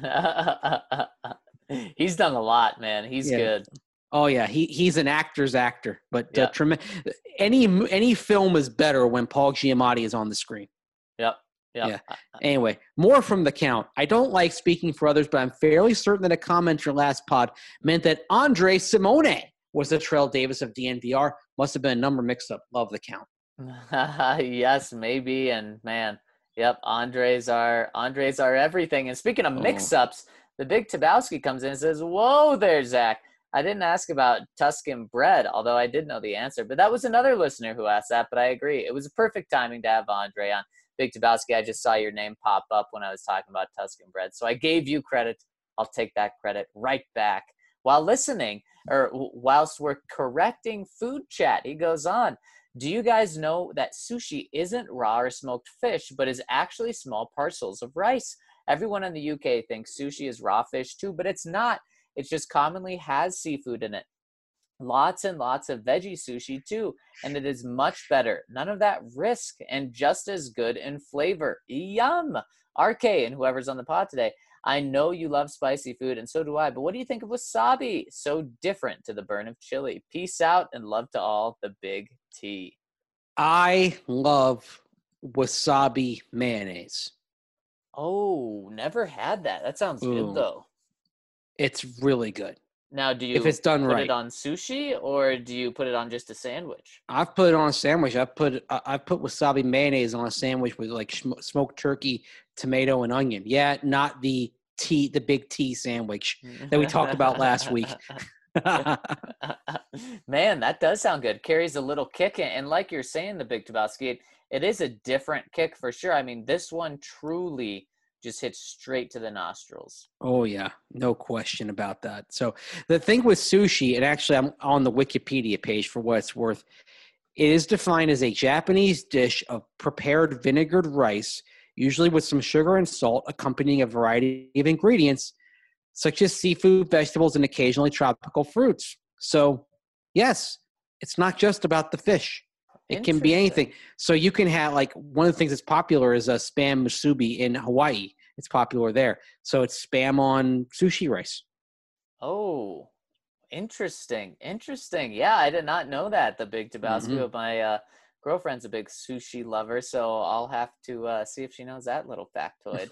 he's done a lot, man. He's Yeah. good. Oh yeah, he he's an actor's actor, but Yeah. uh, trem- any any film is better when Paul Giamatti is on the screen. Yep. Yep. Yeah. Anyway, more from the Count. I don't like speaking for others, but I'm fairly certain that a comment in your last pod meant that Andre Simone was the Terrell Davis of D N V R. Must have been a number mix-up. Love the Count. Yes, maybe. And man, yep, Andres are Andres are everything. And speaking of Oh. mix-ups, the Big Tabowski comes in and says, "Whoa there, Zach. I didn't ask about Tuscan bread, although I did know the answer. But that was another listener who asked that, but I agree. It was a perfect timing to have Andre on. Big Tabowski, I just saw your name pop up when I was talking about Tuscan bread. So I gave you credit. I'll take that credit right back." While listening, or whilst we're correcting food chat, he goes on, "Do you guys know that sushi isn't raw or smoked fish, but is actually small parcels of rice? Everyone in the U K thinks sushi is raw fish too, but it's not. It just commonly has seafood in it. Lots and lots of veggie sushi too, and it is much better. None of that risk, and just as good in flavor. Yum! R K and whoever's on the pod today, I know you love spicy food, and so do I, but what do you think of wasabi? So different to the burn of chili. Peace out, and love to all, the Big T." I love wasabi mayonnaise. Oh, never had that. That sounds Ooh. good, though. It's really good Now, do you if it's done put right. it on sushi, or do you put it on just a sandwich? I've put it on a sandwich. I've put I- I've put wasabi mayonnaise on a sandwich with like sm- smoked turkey, tomato, and onion. Yeah, not the T, the big T sandwich that we talked about last week. Man, that does sound good. Carries a little kick, in- and like you're saying, the Big Tabasco, it, it is a different kick for sure. I mean, this one truly just hits straight to the nostrils. Oh, yeah. No question about that. So the thing with sushi, and actually I'm on the Wikipedia page for what it's worth, it is defined as a Japanese dish of prepared vinegared rice, usually with some sugar and salt, accompanying a variety of ingredients, such as seafood, vegetables, and occasionally tropical fruits. So, yes, it's not just about the fish. It can be anything. So you can have, like, one of the things that's popular is a spam musubi in Hawaii. It's popular there. So it's spam on sushi rice. Oh, interesting. Interesting. Yeah, I did not know that, the Big Tabasco. Mm-hmm. My uh, girlfriend's a big sushi lover, so I'll have to uh, see if she knows that little factoid.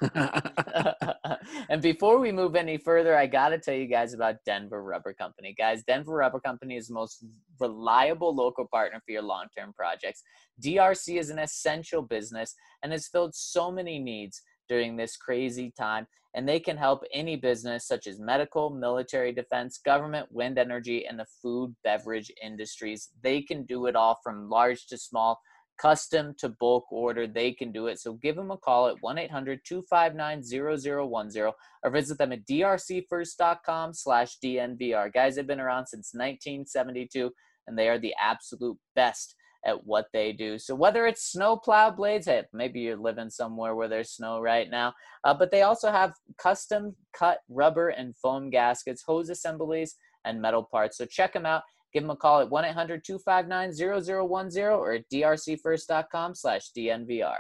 And before we move any further, I got to tell you guys about Denver Rubber Company. Guys, Denver Rubber Company is the most reliable local partner for your long-term projects. D R C is an essential business and has filled so many needs during this crazy time, and they can help any business such as medical, military, defense, government, wind energy, and the food, beverage industries. They can do it all from large to small, custom to bulk order. They can do it. So give them a call at one eight hundred two five nine zero zero one zero or visit them at drcfirst.com slash DNVR. Guys, they've been around since nineteen seventy-two, and they are the absolute best at what they do. So whether it's snow plow blades, hey, maybe you're living somewhere where there's snow right now, uh, but they also have custom cut rubber and foam gaskets, hose assemblies, and metal parts. So check them out. Give them a call at one eight hundred two five nine zero zero one zero or at drcfirst.com slash DNVR.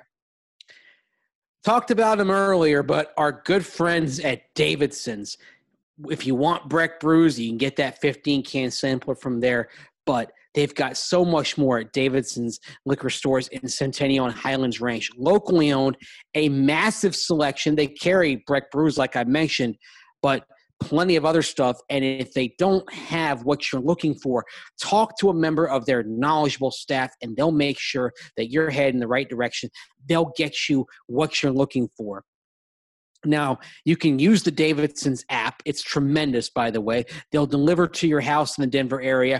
Talked about them earlier, but our good friends at Davidson's. If you want Breck brews, you can get that fifteen can sampler from there, but they've got so much more at Davidson's liquor stores in Centennial and Highlands Ranch. Locally owned, a massive selection. They carry Breck brews, like I mentioned, but plenty of other stuff. And if they don't have what you're looking for, talk to a member of their knowledgeable staff, and they'll make sure that you're heading in the right direction. They'll get you what you're looking for. Now, you can use the Davidson's app. It's tremendous, by the way. They'll deliver to your house in the Denver area,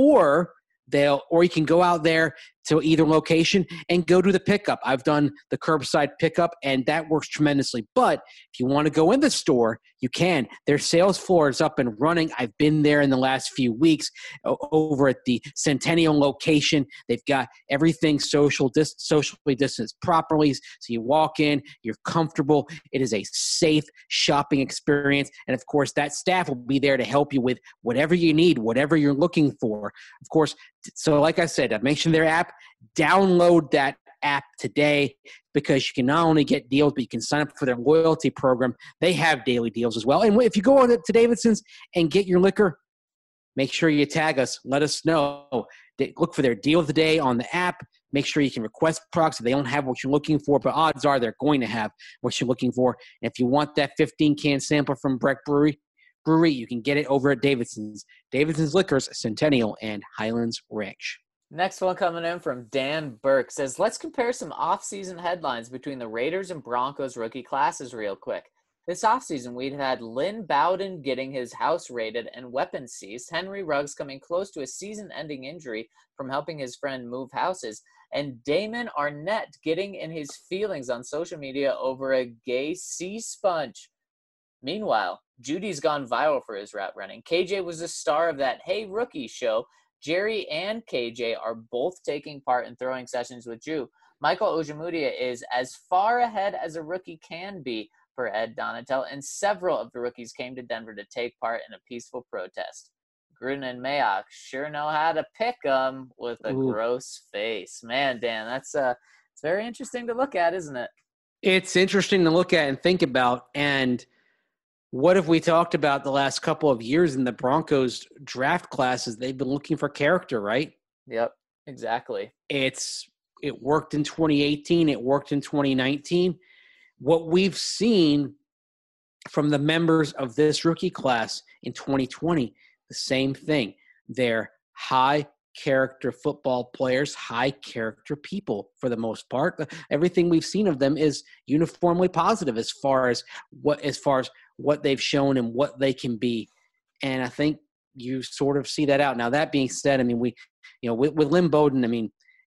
or they'll, or you can go out there to either location and go to the pickup. I've done the curbside pickup, and that works tremendously. But if you want to go in the store, you can. Their sales floor is up and running. I've been there in the last few weeks over at the Centennial location. They've got everything social dis- socially distanced properly. So you walk in, you're comfortable. It is a safe shopping experience. And, of course, that staff will be there to help you with whatever you need, whatever you're looking for. Of course, so like I said, I mentioned their app. Download that app today, because you can not only get deals, but you can sign up for their loyalty program. They have daily deals as well. And if you go on to Davidson's and get your liquor, make sure you tag us. Let us know. Look for their deal of the day on the app. Make sure you can request products if they don't have what you're looking for, but odds are they're going to have what you're looking for. And if you want that fifteen can sampler from Breck Brewery, Brewery, you can get it over at Davidson's. Davidson's Liquors, Centennial, and Highlands Ranch. Next one coming in from Dan Burke says, let's compare some off-season headlines between the Raiders and Broncos rookie classes real quick. This offseason, we'd had Lynn Bowden getting his house raided and weapons seized, Henry Ruggs coming close to a season-ending injury from helping his friend move houses, and Damon Arnett getting in his feelings on social media over a gay sea sponge. Meanwhile, Judy's gone viral for his route running. K J was the star of that Hey Rookie show. Jerry and K J are both taking part in throwing sessions with Drew. Michael Ojemudia is as far ahead as a rookie can be for Ed Donatel, and several of the rookies came to Denver to take part in a peaceful protest. Gruden and Mayock sure know how to pick them with a Ooh. gross face. Man, Dan, that's uh, it's very interesting to look at, isn't it? It's interesting to look at and think about, and what have we talked about the last couple of years in the Broncos draft classes? They've been looking for character, right? Yep, exactly. It's it worked in twenty eighteen. It worked in twenty nineteen. What we've seen from the members of this rookie class in twenty twenty, the same thing. They're high character football players, high character people for the most part. Everything we've seen of them is uniformly positive as far as what as far as what they've shown and what they can be. And I think you sort of see that out. Now, that being said, I mean, we, you know, with, with Lynn Bowden, I mean,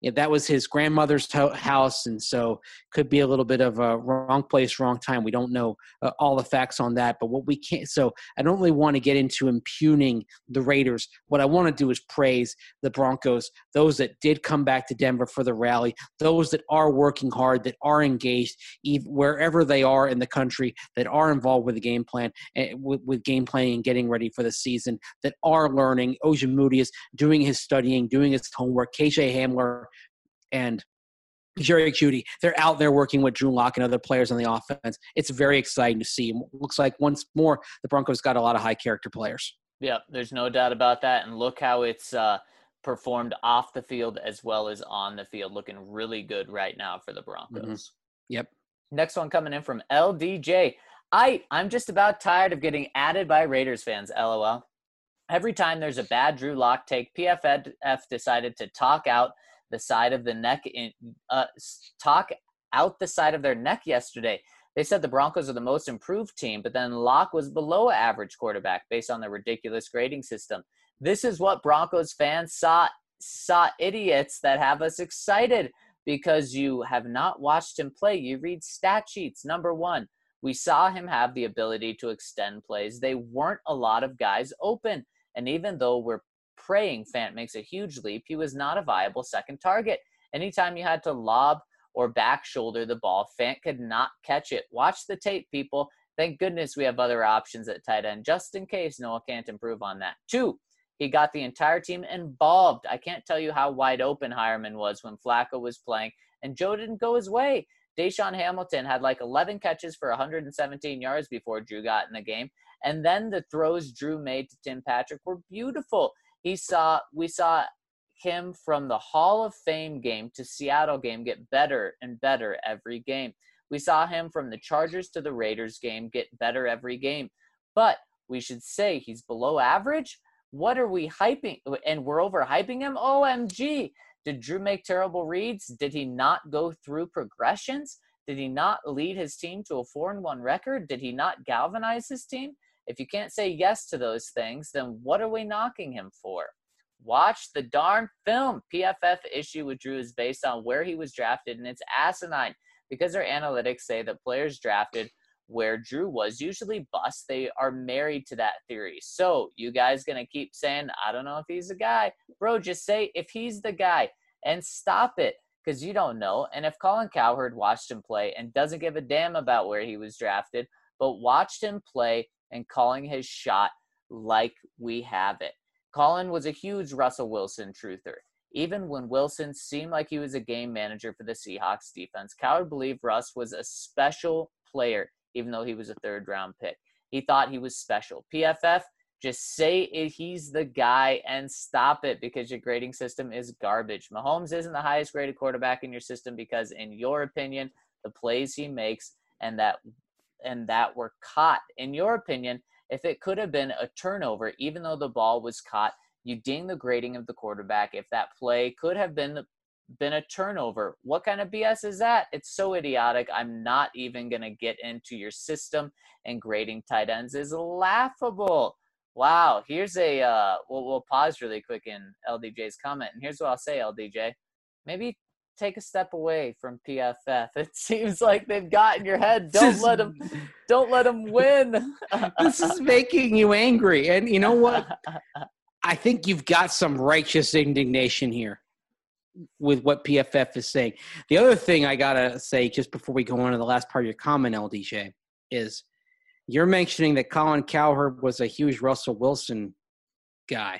yeah, that was his grandmother's ho- house, and so could be a little bit of a wrong place, wrong time. We don't know uh, all the facts on that, but what we can't. So I don't really want to get into impugning the Raiders. What I want to do is praise the Broncos, those that did come back to Denver for the rally, those that are working hard, that are engaged, even wherever they are in the country, that are involved with the game plan, and with, with game planning and getting ready for the season, that are learning. Ojemudia is doing his studying, doing his homework. K J Hamler and Jerry Jeudy, they're out there working with Drew Lock and other players on the offense. It's very exciting to see. It looks like once more the Broncos got a lot of high character players. Yeah, there's no doubt about that. And look how it's uh, performed off the field as well as on the field. Looking really good right now for the Broncos. Mm-hmm. Yep. Next one coming in from L D J. I, I'm just about tired of getting added by Raiders fans, LOL. Every time there's a bad Drew Lock take, P F F decided to talk out the side of the neck, in, uh, talk out the side of their neck yesterday. They said the Broncos are the most improved team, but then Lock was below average quarterback based on the ridiculous grading system. This is what Broncos fans saw, saw idiots that have us excited because you have not watched him play. You read stat sheets. Number one, we saw him have the ability to extend plays. They weren't a lot of guys open. And even though we're praying Fant makes a huge leap, he was not a viable second target. Anytime you had to lob or back shoulder the ball, Fant could not catch it. Watch the tape, people. Thank goodness we have other options at tight end, just in case Noah can't improve on that. Two, he got the entire team involved. I can't tell you how wide open Hireman was when Flacco was playing, and Joe didn't go his way. Deshaun Hamilton had like eleven catches for one hundred seventeen yards before Drew got in the game. And then the throws Drew made to Tim Patrick were beautiful. He saw, we saw him from the Hall of Fame game to Seattle game get better and better every game. We saw him from the Chargers to the Raiders game get better every game. But we should say he's below average? What are we hyping? And we're overhyping him? O M G. Did Drew make terrible reads? Did he not go through progressions? Did he not lead his team to a four and one record? Did he not galvanize his team? If you can't say yes to those things, then what are we knocking him for? Watch the darn film. P F F issue with Drew is based on where he was drafted, and it's asinine because their analytics say that players drafted where Drew was usually bust. They are married to that theory. So you guys going to keep saying, I don't know if he's the guy. Bro, just say if he's the guy and stop it because you don't know. And if Colin Cowherd watched him play and doesn't give a damn about where he was drafted, but watched him play and calling his shot like we have it. Colin was a huge Russell Wilson truther. Even when Wilson seemed like he was a game manager for the Seahawks defense, Cowherd believed Russ was a special player, even though he was a third-round pick. He thought he was special. P F F, just say he's the guy and stop it because your grading system is garbage. Mahomes isn't the highest-graded quarterback in your system because, in your opinion, the plays he makes and that and that were caught, in your opinion, if it could have been a turnover, even though the ball was caught, you ding the grading of the quarterback. If that play could have been been a turnover, what kind of B S is that? It's so idiotic. I'm not even going to get into your system, and grading tight ends is laughable. Wow. Here's a, uh, we'll, we'll pause really quick in L D J's comment. And here's what I'll say, L D J. Maybe take a step away from P F F. It seems like they've got in your head. Don't let them, don't let them win. This is making you angry. And you know what? I think you've got some righteous indignation here with what P F F is saying. The other thing I got to say just before we go on to the last part of your comment, L D J, is you're mentioning that Colin Cowherd was a huge Russell Wilson guy.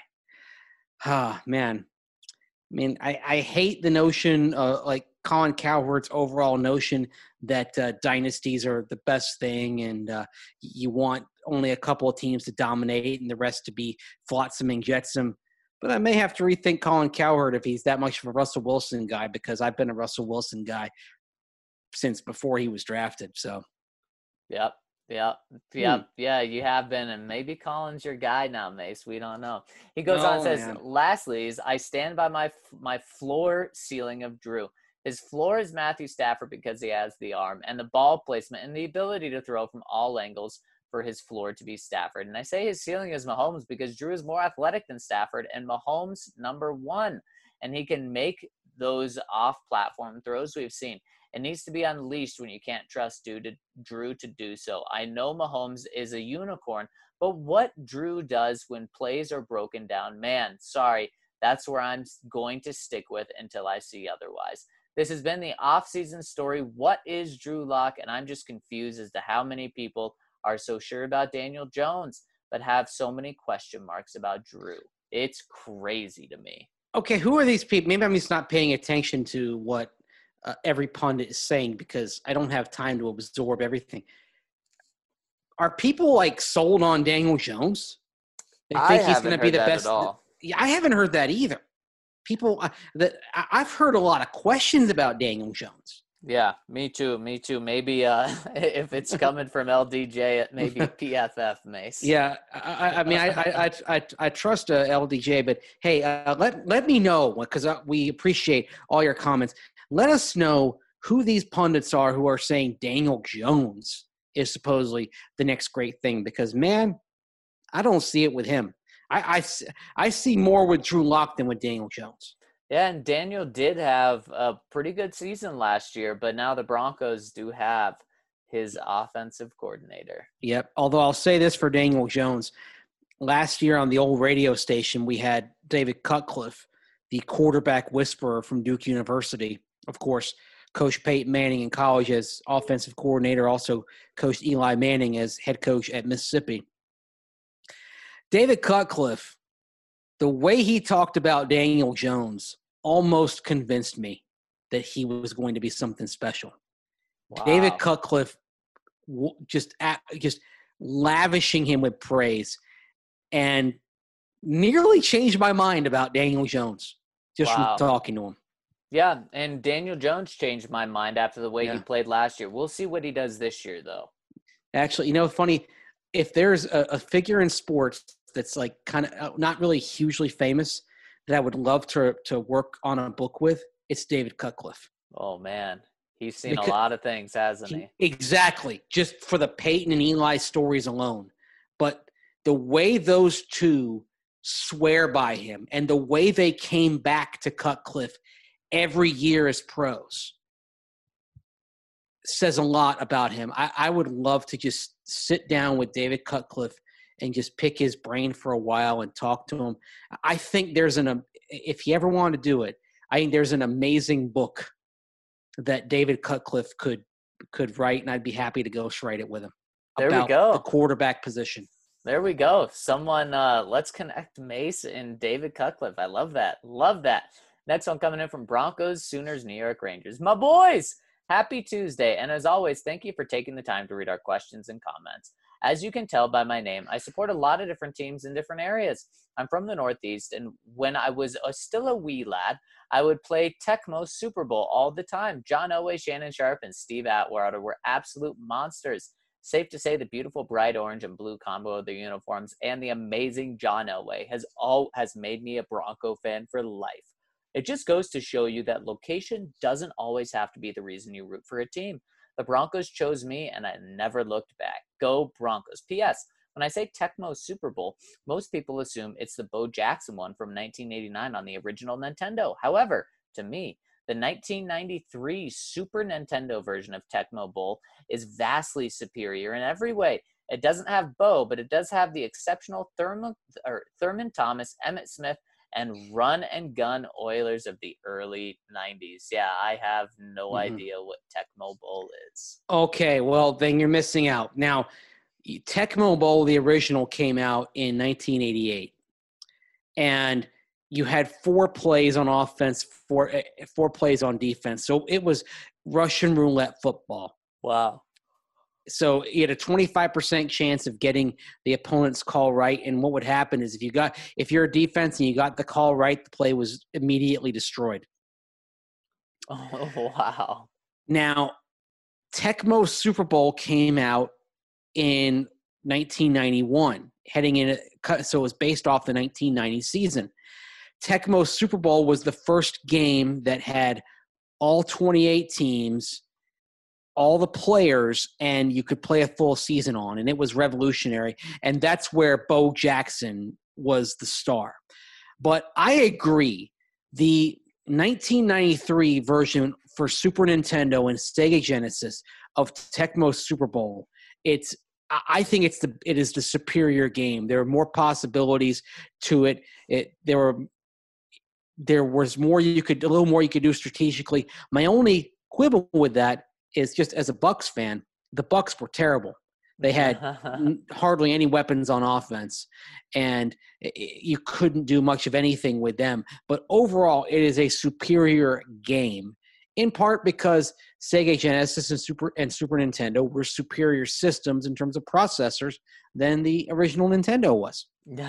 Ah, man. I mean, I, I hate the notion, uh, like Colin Cowherd's overall notion that uh, dynasties are the best thing and uh, you want only a couple of teams to dominate and the rest to be flotsam and jetsam. But I may have to rethink Colin Cowherd if he's that much of a Russell Wilson guy because I've been a Russell Wilson guy since before he was drafted. So, yep. Yep, yep, hmm. yeah, you have been, and maybe Colin's your guy now, Mace. We don't know. He goes no, on and says, man. lastly, is I stand by my my floor ceiling of Drew. His floor is Matthew Stafford because he has the arm and the ball placement and the ability to throw from all angles for his floor to be Stafford. And I say his ceiling is Mahomes because Drew is more athletic than Stafford, and Mahomes number one, and he can make those off-platform throws we've seen. It needs to be unleashed when you can't trust Drew to, Drew to do so. I know Mahomes is a unicorn, but what Drew does when plays are broken down, man, sorry, that's where I'm going to stick with until I see otherwise. This has been the off-season story. What is Drew Lock? And I'm just confused as to how many people are so sure about Daniel Jones, but have so many question marks about Drew. It's crazy to me. Okay, who are these people? Maybe I'm just not paying attention to what uh, every pundit is saying because I don't have time to absorb everything. Are people like sold on Daniel Jones? They I think he's haven't going to be heard the that best. at all. Yeah, I haven't heard that either. People uh, that I- I've heard a lot of questions about Daniel Jones. Yeah, me too. Me too. Maybe uh, if it's coming from L D J, maybe P F F, Mace. Yeah, I, I mean, I I I, I, I trust uh, L D J, but hey, uh, let let me know because uh, we appreciate all your comments. Let us know who these pundits are who are saying Daniel Jones is supposedly the next great thing. Because man, I don't see it with him. I I, I see more with Drew Lock than with Daniel Jones. Yeah, and Daniel did have a pretty good season last year, but now the Broncos do have his offensive coordinator. Yep. Although I'll say this for Daniel Jones. Last year on the old radio station, we had David Cutcliffe, the quarterback whisperer from Duke University. Of course, coached Peyton Manning in college as offensive coordinator, also coached Eli Manning as head coach at Mississippi. David Cutcliffe, the way he talked about Daniel Jones almost convinced me that he was going to be something special. Wow. David Cutcliffe just just lavishing him with praise and nearly changed my mind about Daniel Jones just Wow. from talking to him. Yeah, and Daniel Jones changed my mind after the way Yeah. he played last year. We'll see what he does this year, though. Actually, you know, funny, if there's a, a figure in sports that's like kind of not really hugely famous that I would love to to work on a book with, it's David Cutcliffe. Oh, man. He's seen Because- a lot of things, hasn't he? He- Exactly. Just for the Peyton and Eli stories alone. But the way those two swear by him and the way they came back to Cutcliffe every year as pros says a lot about him. I, I would love to just sit down with David Cutcliffe and just pick his brain for a while and talk to him. I think there's an – if you ever want to do it, I think there's an amazing book that David Cutcliffe could could write, and I'd be happy to ghostwrite it with him. There we about go. the quarterback position. There we go. Someone, uh, let's connect Mace and David Cutcliffe. I love that. Love that. Next one coming in from Broncos, Sooners, New York Rangers. My boys, happy Tuesday. And as always, thank you for taking the time to read our questions and comments. As you can tell by my name, I support a lot of different teams in different areas. I'm from the Northeast, and when I was a, still a wee lad, I would play Tecmo Super Bowl all the time. John Elway, Shannon Sharp, and Steve Atwater were absolute monsters. Safe to say the beautiful bright orange and blue combo of their uniforms and the amazing John Elway has all has made me a Bronco fan for life. It just goes to show you that location doesn't always have to be the reason you root for a team. The Broncos chose me, and I never looked back. Go Broncos. P S. When I say Tecmo Super Bowl, most people assume it's the Bo Jackson one from nineteen eighty-nine on the original Nintendo. However, to me, the nineteen ninety-three Super Nintendo version of Tecmo Bowl is vastly superior in every way. It doesn't have Bo, but it does have the exceptional Thurman, or Thurman Thomas, Emmitt Smith, and run and gun Oilers of the early nineties. Yeah, I have no Mhm. idea what Tecmo Bowl is. Okay, well, then you're missing out. Now, Tecmo Bowl, the original, came out in nineteen eighty-eight. And you had four plays on offense, four, four plays on defense. So it was Russian roulette football. Wow. So you had a twenty-five percent chance of getting the opponent's call right. And what would happen is if you got, if you're a defense and you got the call right, the play was immediately destroyed. Oh, wow. Now, Tecmo Super Bowl came out in nineteen ninety-one, heading in, so it was based off the nineteen ninety season. Tecmo Super Bowl was the first game that had all twenty-eight teams, all the players, and you could play a full season on, and it was revolutionary. And that's where Bo Jackson was the star. But I agree, the nineteen ninety-three version for Super Nintendo and Sega Genesis of Tecmo Super Bowl. It's I think it's the it is the superior game. There are more possibilities to it. It there were there was more you could a little more you could do strategically. My only quibble with that is just as a Bucks fan, the Bucks were terrible. They had hardly any weapons on offense, and you couldn't do much of anything with them. But overall, it is a superior game, in part because Sega Genesis and Super and Super Nintendo were superior systems in terms of processors than the original Nintendo was.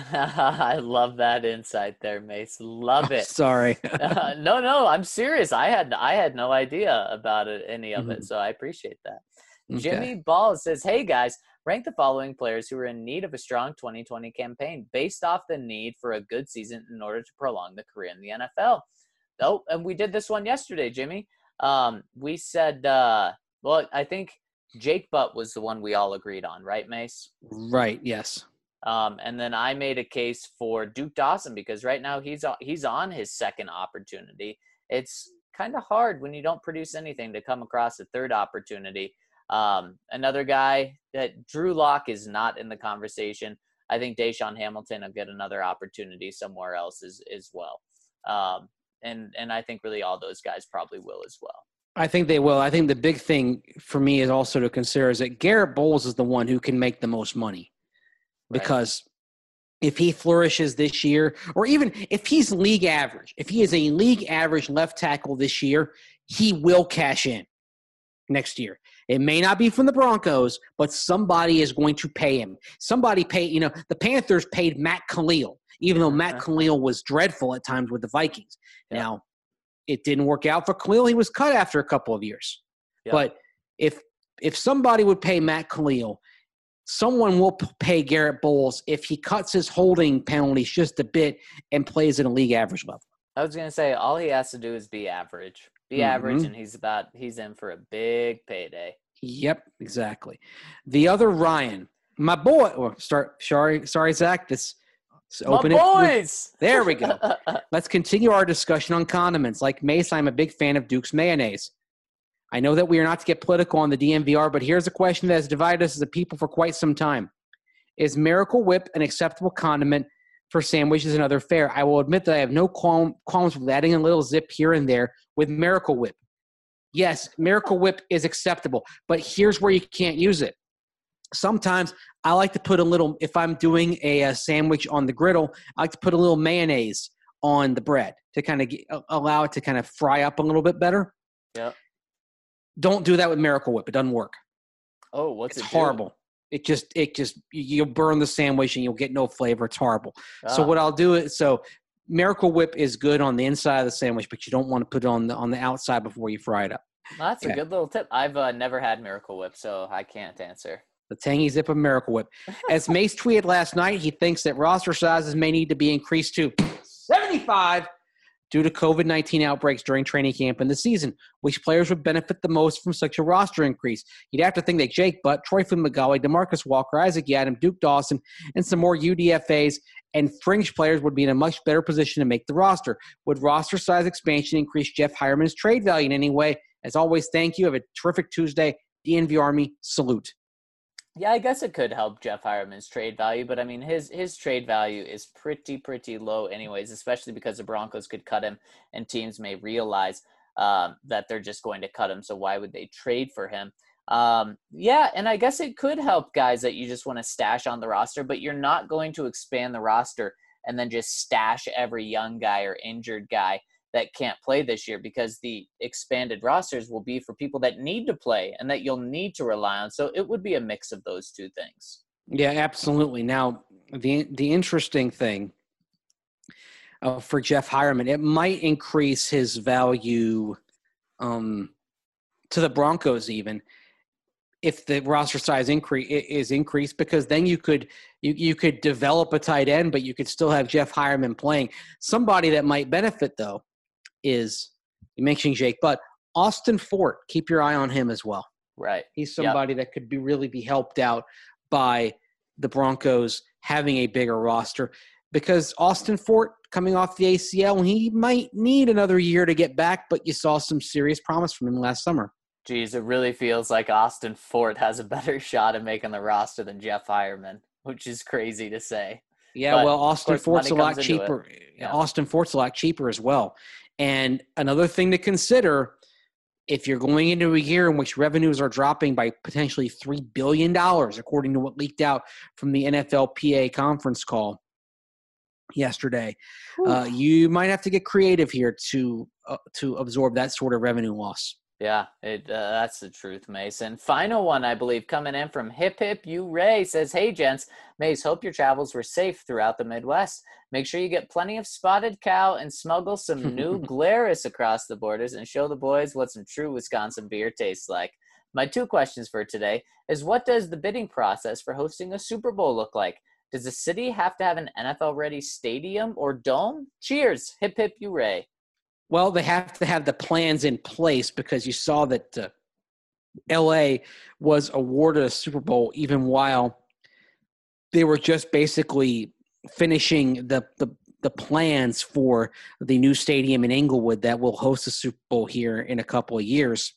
I love that insight there, Mace. Love it. Sorry. uh, no, no, I'm serious. I had I had no idea about it, any of it, so I appreciate that. Okay. Jimmy Ball says, hey, guys, rank the following players who are in need of a strong twenty twenty campaign based off the need for a good season in order to prolong the career in the N F L. Oh, and we did this one yesterday, Jimmy. Um, we said, uh, well, I think Jake Butt was the one we all agreed on, right, Mace? Right, yes. Um, and then I made a case for Duke Dawson because right now he's he's on his second opportunity. It's kind of hard when you don't produce anything to come across a third opportunity. Um, another guy that Drew Lock is not in the conversation. I think Deshaun Hamilton will get another opportunity somewhere else as, as well. Um, and, and I think really all those guys probably will as well. I think they will. I think the big thing for me is also to consider is that Garrett Bowles is the one who can make the most money. Because right. if he flourishes this year, or even if he's league average, if he is a league average left tackle this year, he will cash in next year. It may not be from the Broncos, but somebody is going to pay him. Somebody paid, you know, the Panthers paid Matt Khalil, even though Matt Khalil was dreadful at times with the Vikings. Yep. Now, it didn't work out for Khalil. He was cut after a couple of years. Yep. But if if somebody would pay Matt Khalil, someone will pay Garrett Bowles if he cuts his holding penalties just a bit and plays at a league average level. I was going to say, all he has to do is be average. Be mm-hmm. average, and he's about he's in for a big payday. Yep, exactly. The other Ryan, my boy. Or start. Sorry, sorry, Zach. This open my boys. It. There we go. Let's continue our discussion on condiments. Like Mace, I'm a big fan of Duke's mayonnaise. I know that we are not to get political on the D N V R, but here's a question that has divided us as a people for quite some time: is Miracle Whip an acceptable condiment for sandwiches and other fare? I will admit that I have no qualm, qualms with adding a little zip here and there with Miracle Whip. Yes, Miracle Whip is acceptable, but here's where you can't use it. Sometimes I like to put a little, if I'm doing a, a sandwich on the griddle, I like to put a little mayonnaise on the bread to kind of get, allow it to kind of fry up a little bit better. Yeah. Don't do that with Miracle Whip. It doesn't work. Oh, what's it's it horrible. Do? It just, it just, you'll burn the sandwich and you'll get no flavor. It's horrible. Ah. So what I'll do is, so Miracle Whip is good on the inside of the sandwich, but you don't want to put it on the on the outside before you fry it up. Well, that's okay. a good little tip. I've uh, never had Miracle Whip, so I can't answer. The tangy zip of Miracle Whip. As Mace tweeted last night, he thinks that roster sizes may need to be increased to seventy-five due to covid nineteen outbreaks during training camp in the season. Which players would benefit the most from such a roster increase? You'd have to think that Jake Butt, Troy Fumagalli, DeMarcus Walker, Isaac Yiadom, Duke Dawson, and some more U D F As and fringe players would be in a much better position to make the roster. Would roster size expansion increase Jeff Hireman's trade value in any way? As always, thank you. Have a terrific Tuesday. D N V Army, salute. Yeah, I guess it could help Jeff Hireman's trade value, but I mean, his his trade value is pretty, pretty low anyways, especially because the Broncos could cut him and teams may realize um, that they're just going to cut him. So why would they trade for him? Um, yeah, and I guess it could help guys that you just want to stash on the roster, but you're not going to expand the roster and then just stash every young guy or injured guy that can't play this year, because the expanded rosters will be for people that need to play and that you'll need to rely on. So it would be a mix of those two things. Yeah, absolutely. Now, the the interesting thing uh, for Jeff Hireman, it might increase his value um, to the Broncos even if the roster size increase is increased, because then you could you you could develop a tight end, but you could still have Jeff Hireman playing. Somebody that might benefit though is, you mentioned Jake Butt, Austin Fort. Keep your eye on him as well. Right. He's somebody yep. that could be really be helped out by the Broncos having a bigger roster, because Austin Fort coming off the A C L, he might need another year to get back, but you saw some serious promise from him last summer. Geez, it really feels like Austin Fort has a better shot at making the roster than Jeff Hireman, which is crazy to say. Yeah, But, well, of Austin course, Fort's a money lot comes into it. cheaper. Yeah. Austin Fort's a lot cheaper as well. And another thing to consider, if you're going into a year in which revenues are dropping by potentially three billion dollars, according to what leaked out from the N F L P A conference call yesterday, uh, you might have to get creative here to uh, to absorb that sort of revenue loss. Yeah, it, uh, that's the truth, Mason. Final one, I believe, coming in from Hip Hip U Ray says, "Hey, gents, Mace, hope your travels were safe throughout the Midwest. Make sure you get plenty of spotted cow and smuggle some new Glarus across the borders and show the boys what some true Wisconsin beer tastes like." My two questions for today is, what does the bidding process for hosting a Super Bowl look like? Does the city have to have an N F L-ready stadium or dome? Cheers, Hip Hip U Ray. Well, they have to have the plans in place because you saw that uh, L A was awarded a Super Bowl even while they were just basically finishing the, the, the plans for the new stadium in Inglewood that will host a Super Bowl here in a couple of years.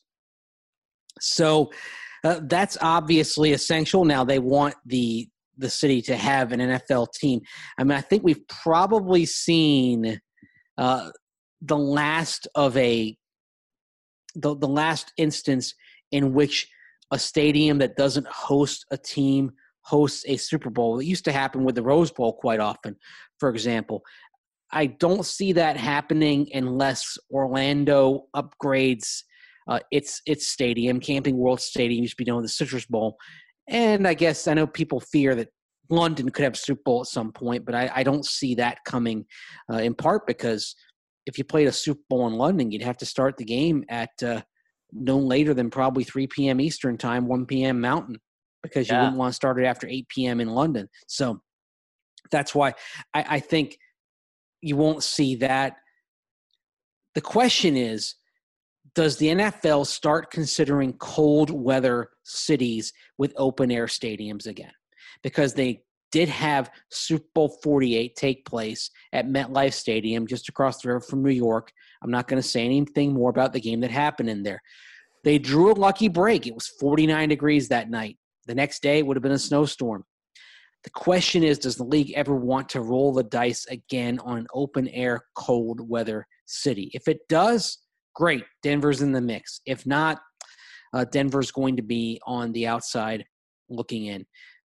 So uh, that's obviously essential. Now they want the the city to have an N F L team. I mean, I think we've probably seen uh, – the last of a the, the last instance in which a stadium that doesn't host a team hosts a Super Bowl. It used to happen with the Rose Bowl quite often, for example. I don't see that happening unless Orlando upgrades uh, its its stadium. Camping World Stadium used to be known as the Citrus Bowl. And I guess I know people fear that London could have a Super Bowl at some point, but I, I don't see that coming uh, in part because if you played a Super Bowl in London, you'd have to start the game at uh, no later than probably three p.m. Eastern time, one p.m. Mountain, because you Yeah. wouldn't want to start it after eight p.m. in London. So that's why I, I think you won't see that. The question is, does the N F L start considering cold weather cities with open air stadiums again? Because they did have Super Bowl forty-eight take place at MetLife Stadium just across the river from New York. I'm not going to say anything more about the game that happened in there. They drew a lucky break. It was forty-nine degrees that night. The next day, it would have been a snowstorm. The question is, does the league ever want to roll the dice again on an open-air, cold-weather city? If it does, great. Denver's in the mix. If not, uh, Denver's going to be on the outside looking in.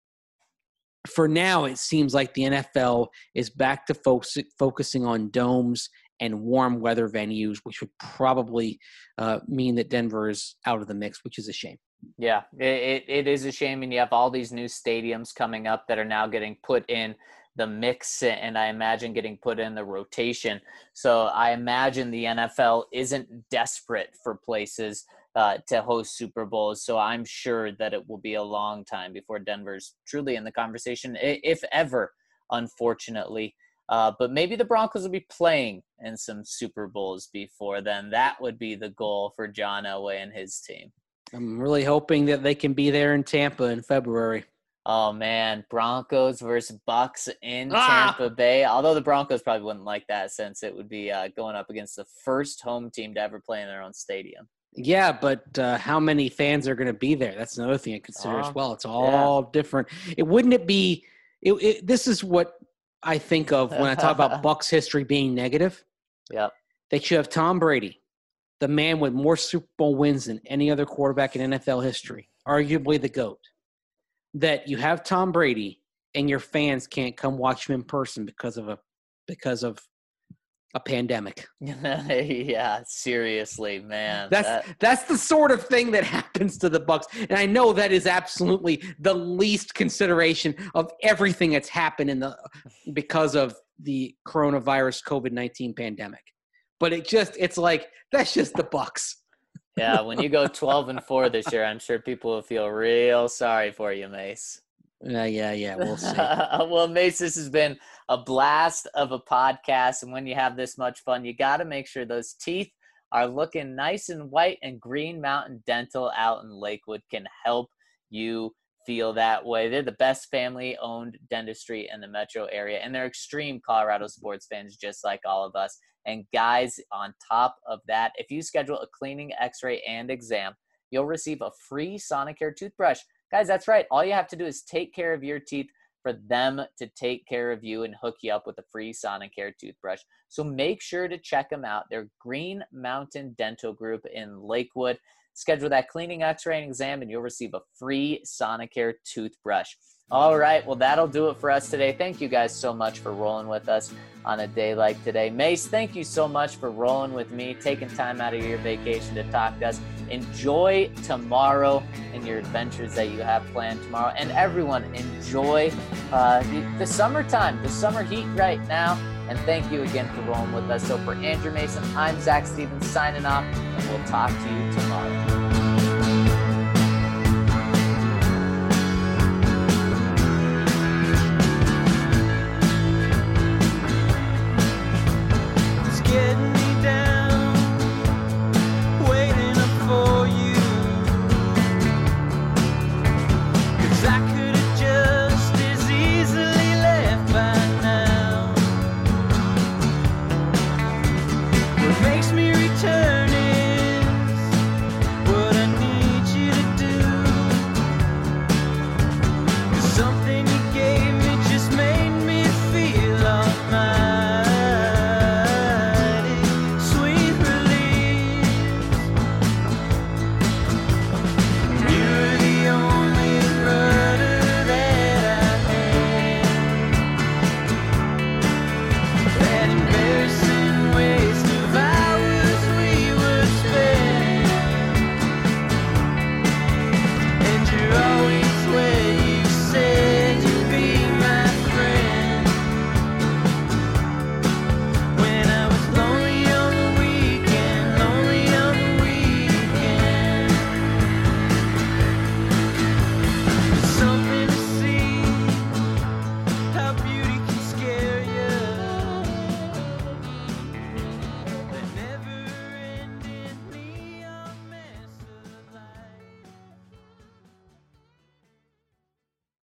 For now, it seems like the N F L is back to focus, focusing on domes and warm weather venues, which would probably uh, mean that Denver is out of the mix, which is a shame. Yeah, it, it is a shame. And you have all these new stadiums coming up that are now getting put in the mix and I imagine getting put in the rotation. So I imagine the N F L isn't desperate for places uh, to host Super Bowls. So I'm sure that it will be a long time before Denver's truly in the conversation, if ever, unfortunately. Uh, but maybe the Broncos will be playing in some Super Bowls before then. That would be the goal for John Elway and his team. I'm really hoping that they can be there in Tampa in February. Oh, man, Broncos versus Bucks in Ah! Tampa Bay. Although the Broncos probably wouldn't like that since it would be uh, going up against the first home team to ever play in their own stadium. Yeah, but uh, how many fans are going to be there? That's another thing to consider Oh, as well. It's all yeah. different. It wouldn't it be it, it, this is what I think of when I talk about Bucks history being negative. Yep. They should have Tom Brady, the man with more Super Bowl wins than any other quarterback in N F L history, arguably the GOAT. That you have Tom Brady and your fans can't come watch him in person because of a because of a pandemic. Yeah, seriously, man. That's that, that's the sort of thing that happens to the Bucks, and I know that is absolutely the least consideration of everything that's happened in the because of the coronavirus COVID nineteen pandemic. But it just it's like that's just the Bucks. yeah, when you go twelve and four this year, I'm sure people will feel real sorry for you, Mace. Yeah, yeah, yeah. We'll see. Well, Mace, this has been a blast of a podcast. And when you have this much fun, you got to make sure those teeth are looking nice and white, and Green Mountain Dental out in Lakewood can help you feel that way. They're the best family-owned dentistry in the metro area, and they're extreme Colorado sports fans just like all of us. And guys, on top of that, if you schedule a cleaning, x-ray, and exam, you'll receive a free Sonicare toothbrush. Guys, that's right. All you have to do is take care of your teeth for them to take care of you and hook you up with a free Sonicare toothbrush. So make sure to check them out. They're Green Mountain Dental Group in Lakewood. Schedule that cleaning, x-ray, and exam, and you'll receive a free Sonicare toothbrush. All right, well, that'll do it for us today. Thank you guys so much for rolling with us on a day like today. Mace, thank you so much for rolling with me, taking time out of your vacation to talk to us. Enjoy tomorrow and your adventures that you have planned tomorrow. And everyone, enjoy uh, the, the summertime, the summer heat right now. And thank you again for rolling with us. So for Andrew Mason, I'm Zach Stevens signing off, and we'll talk to you tomorrow.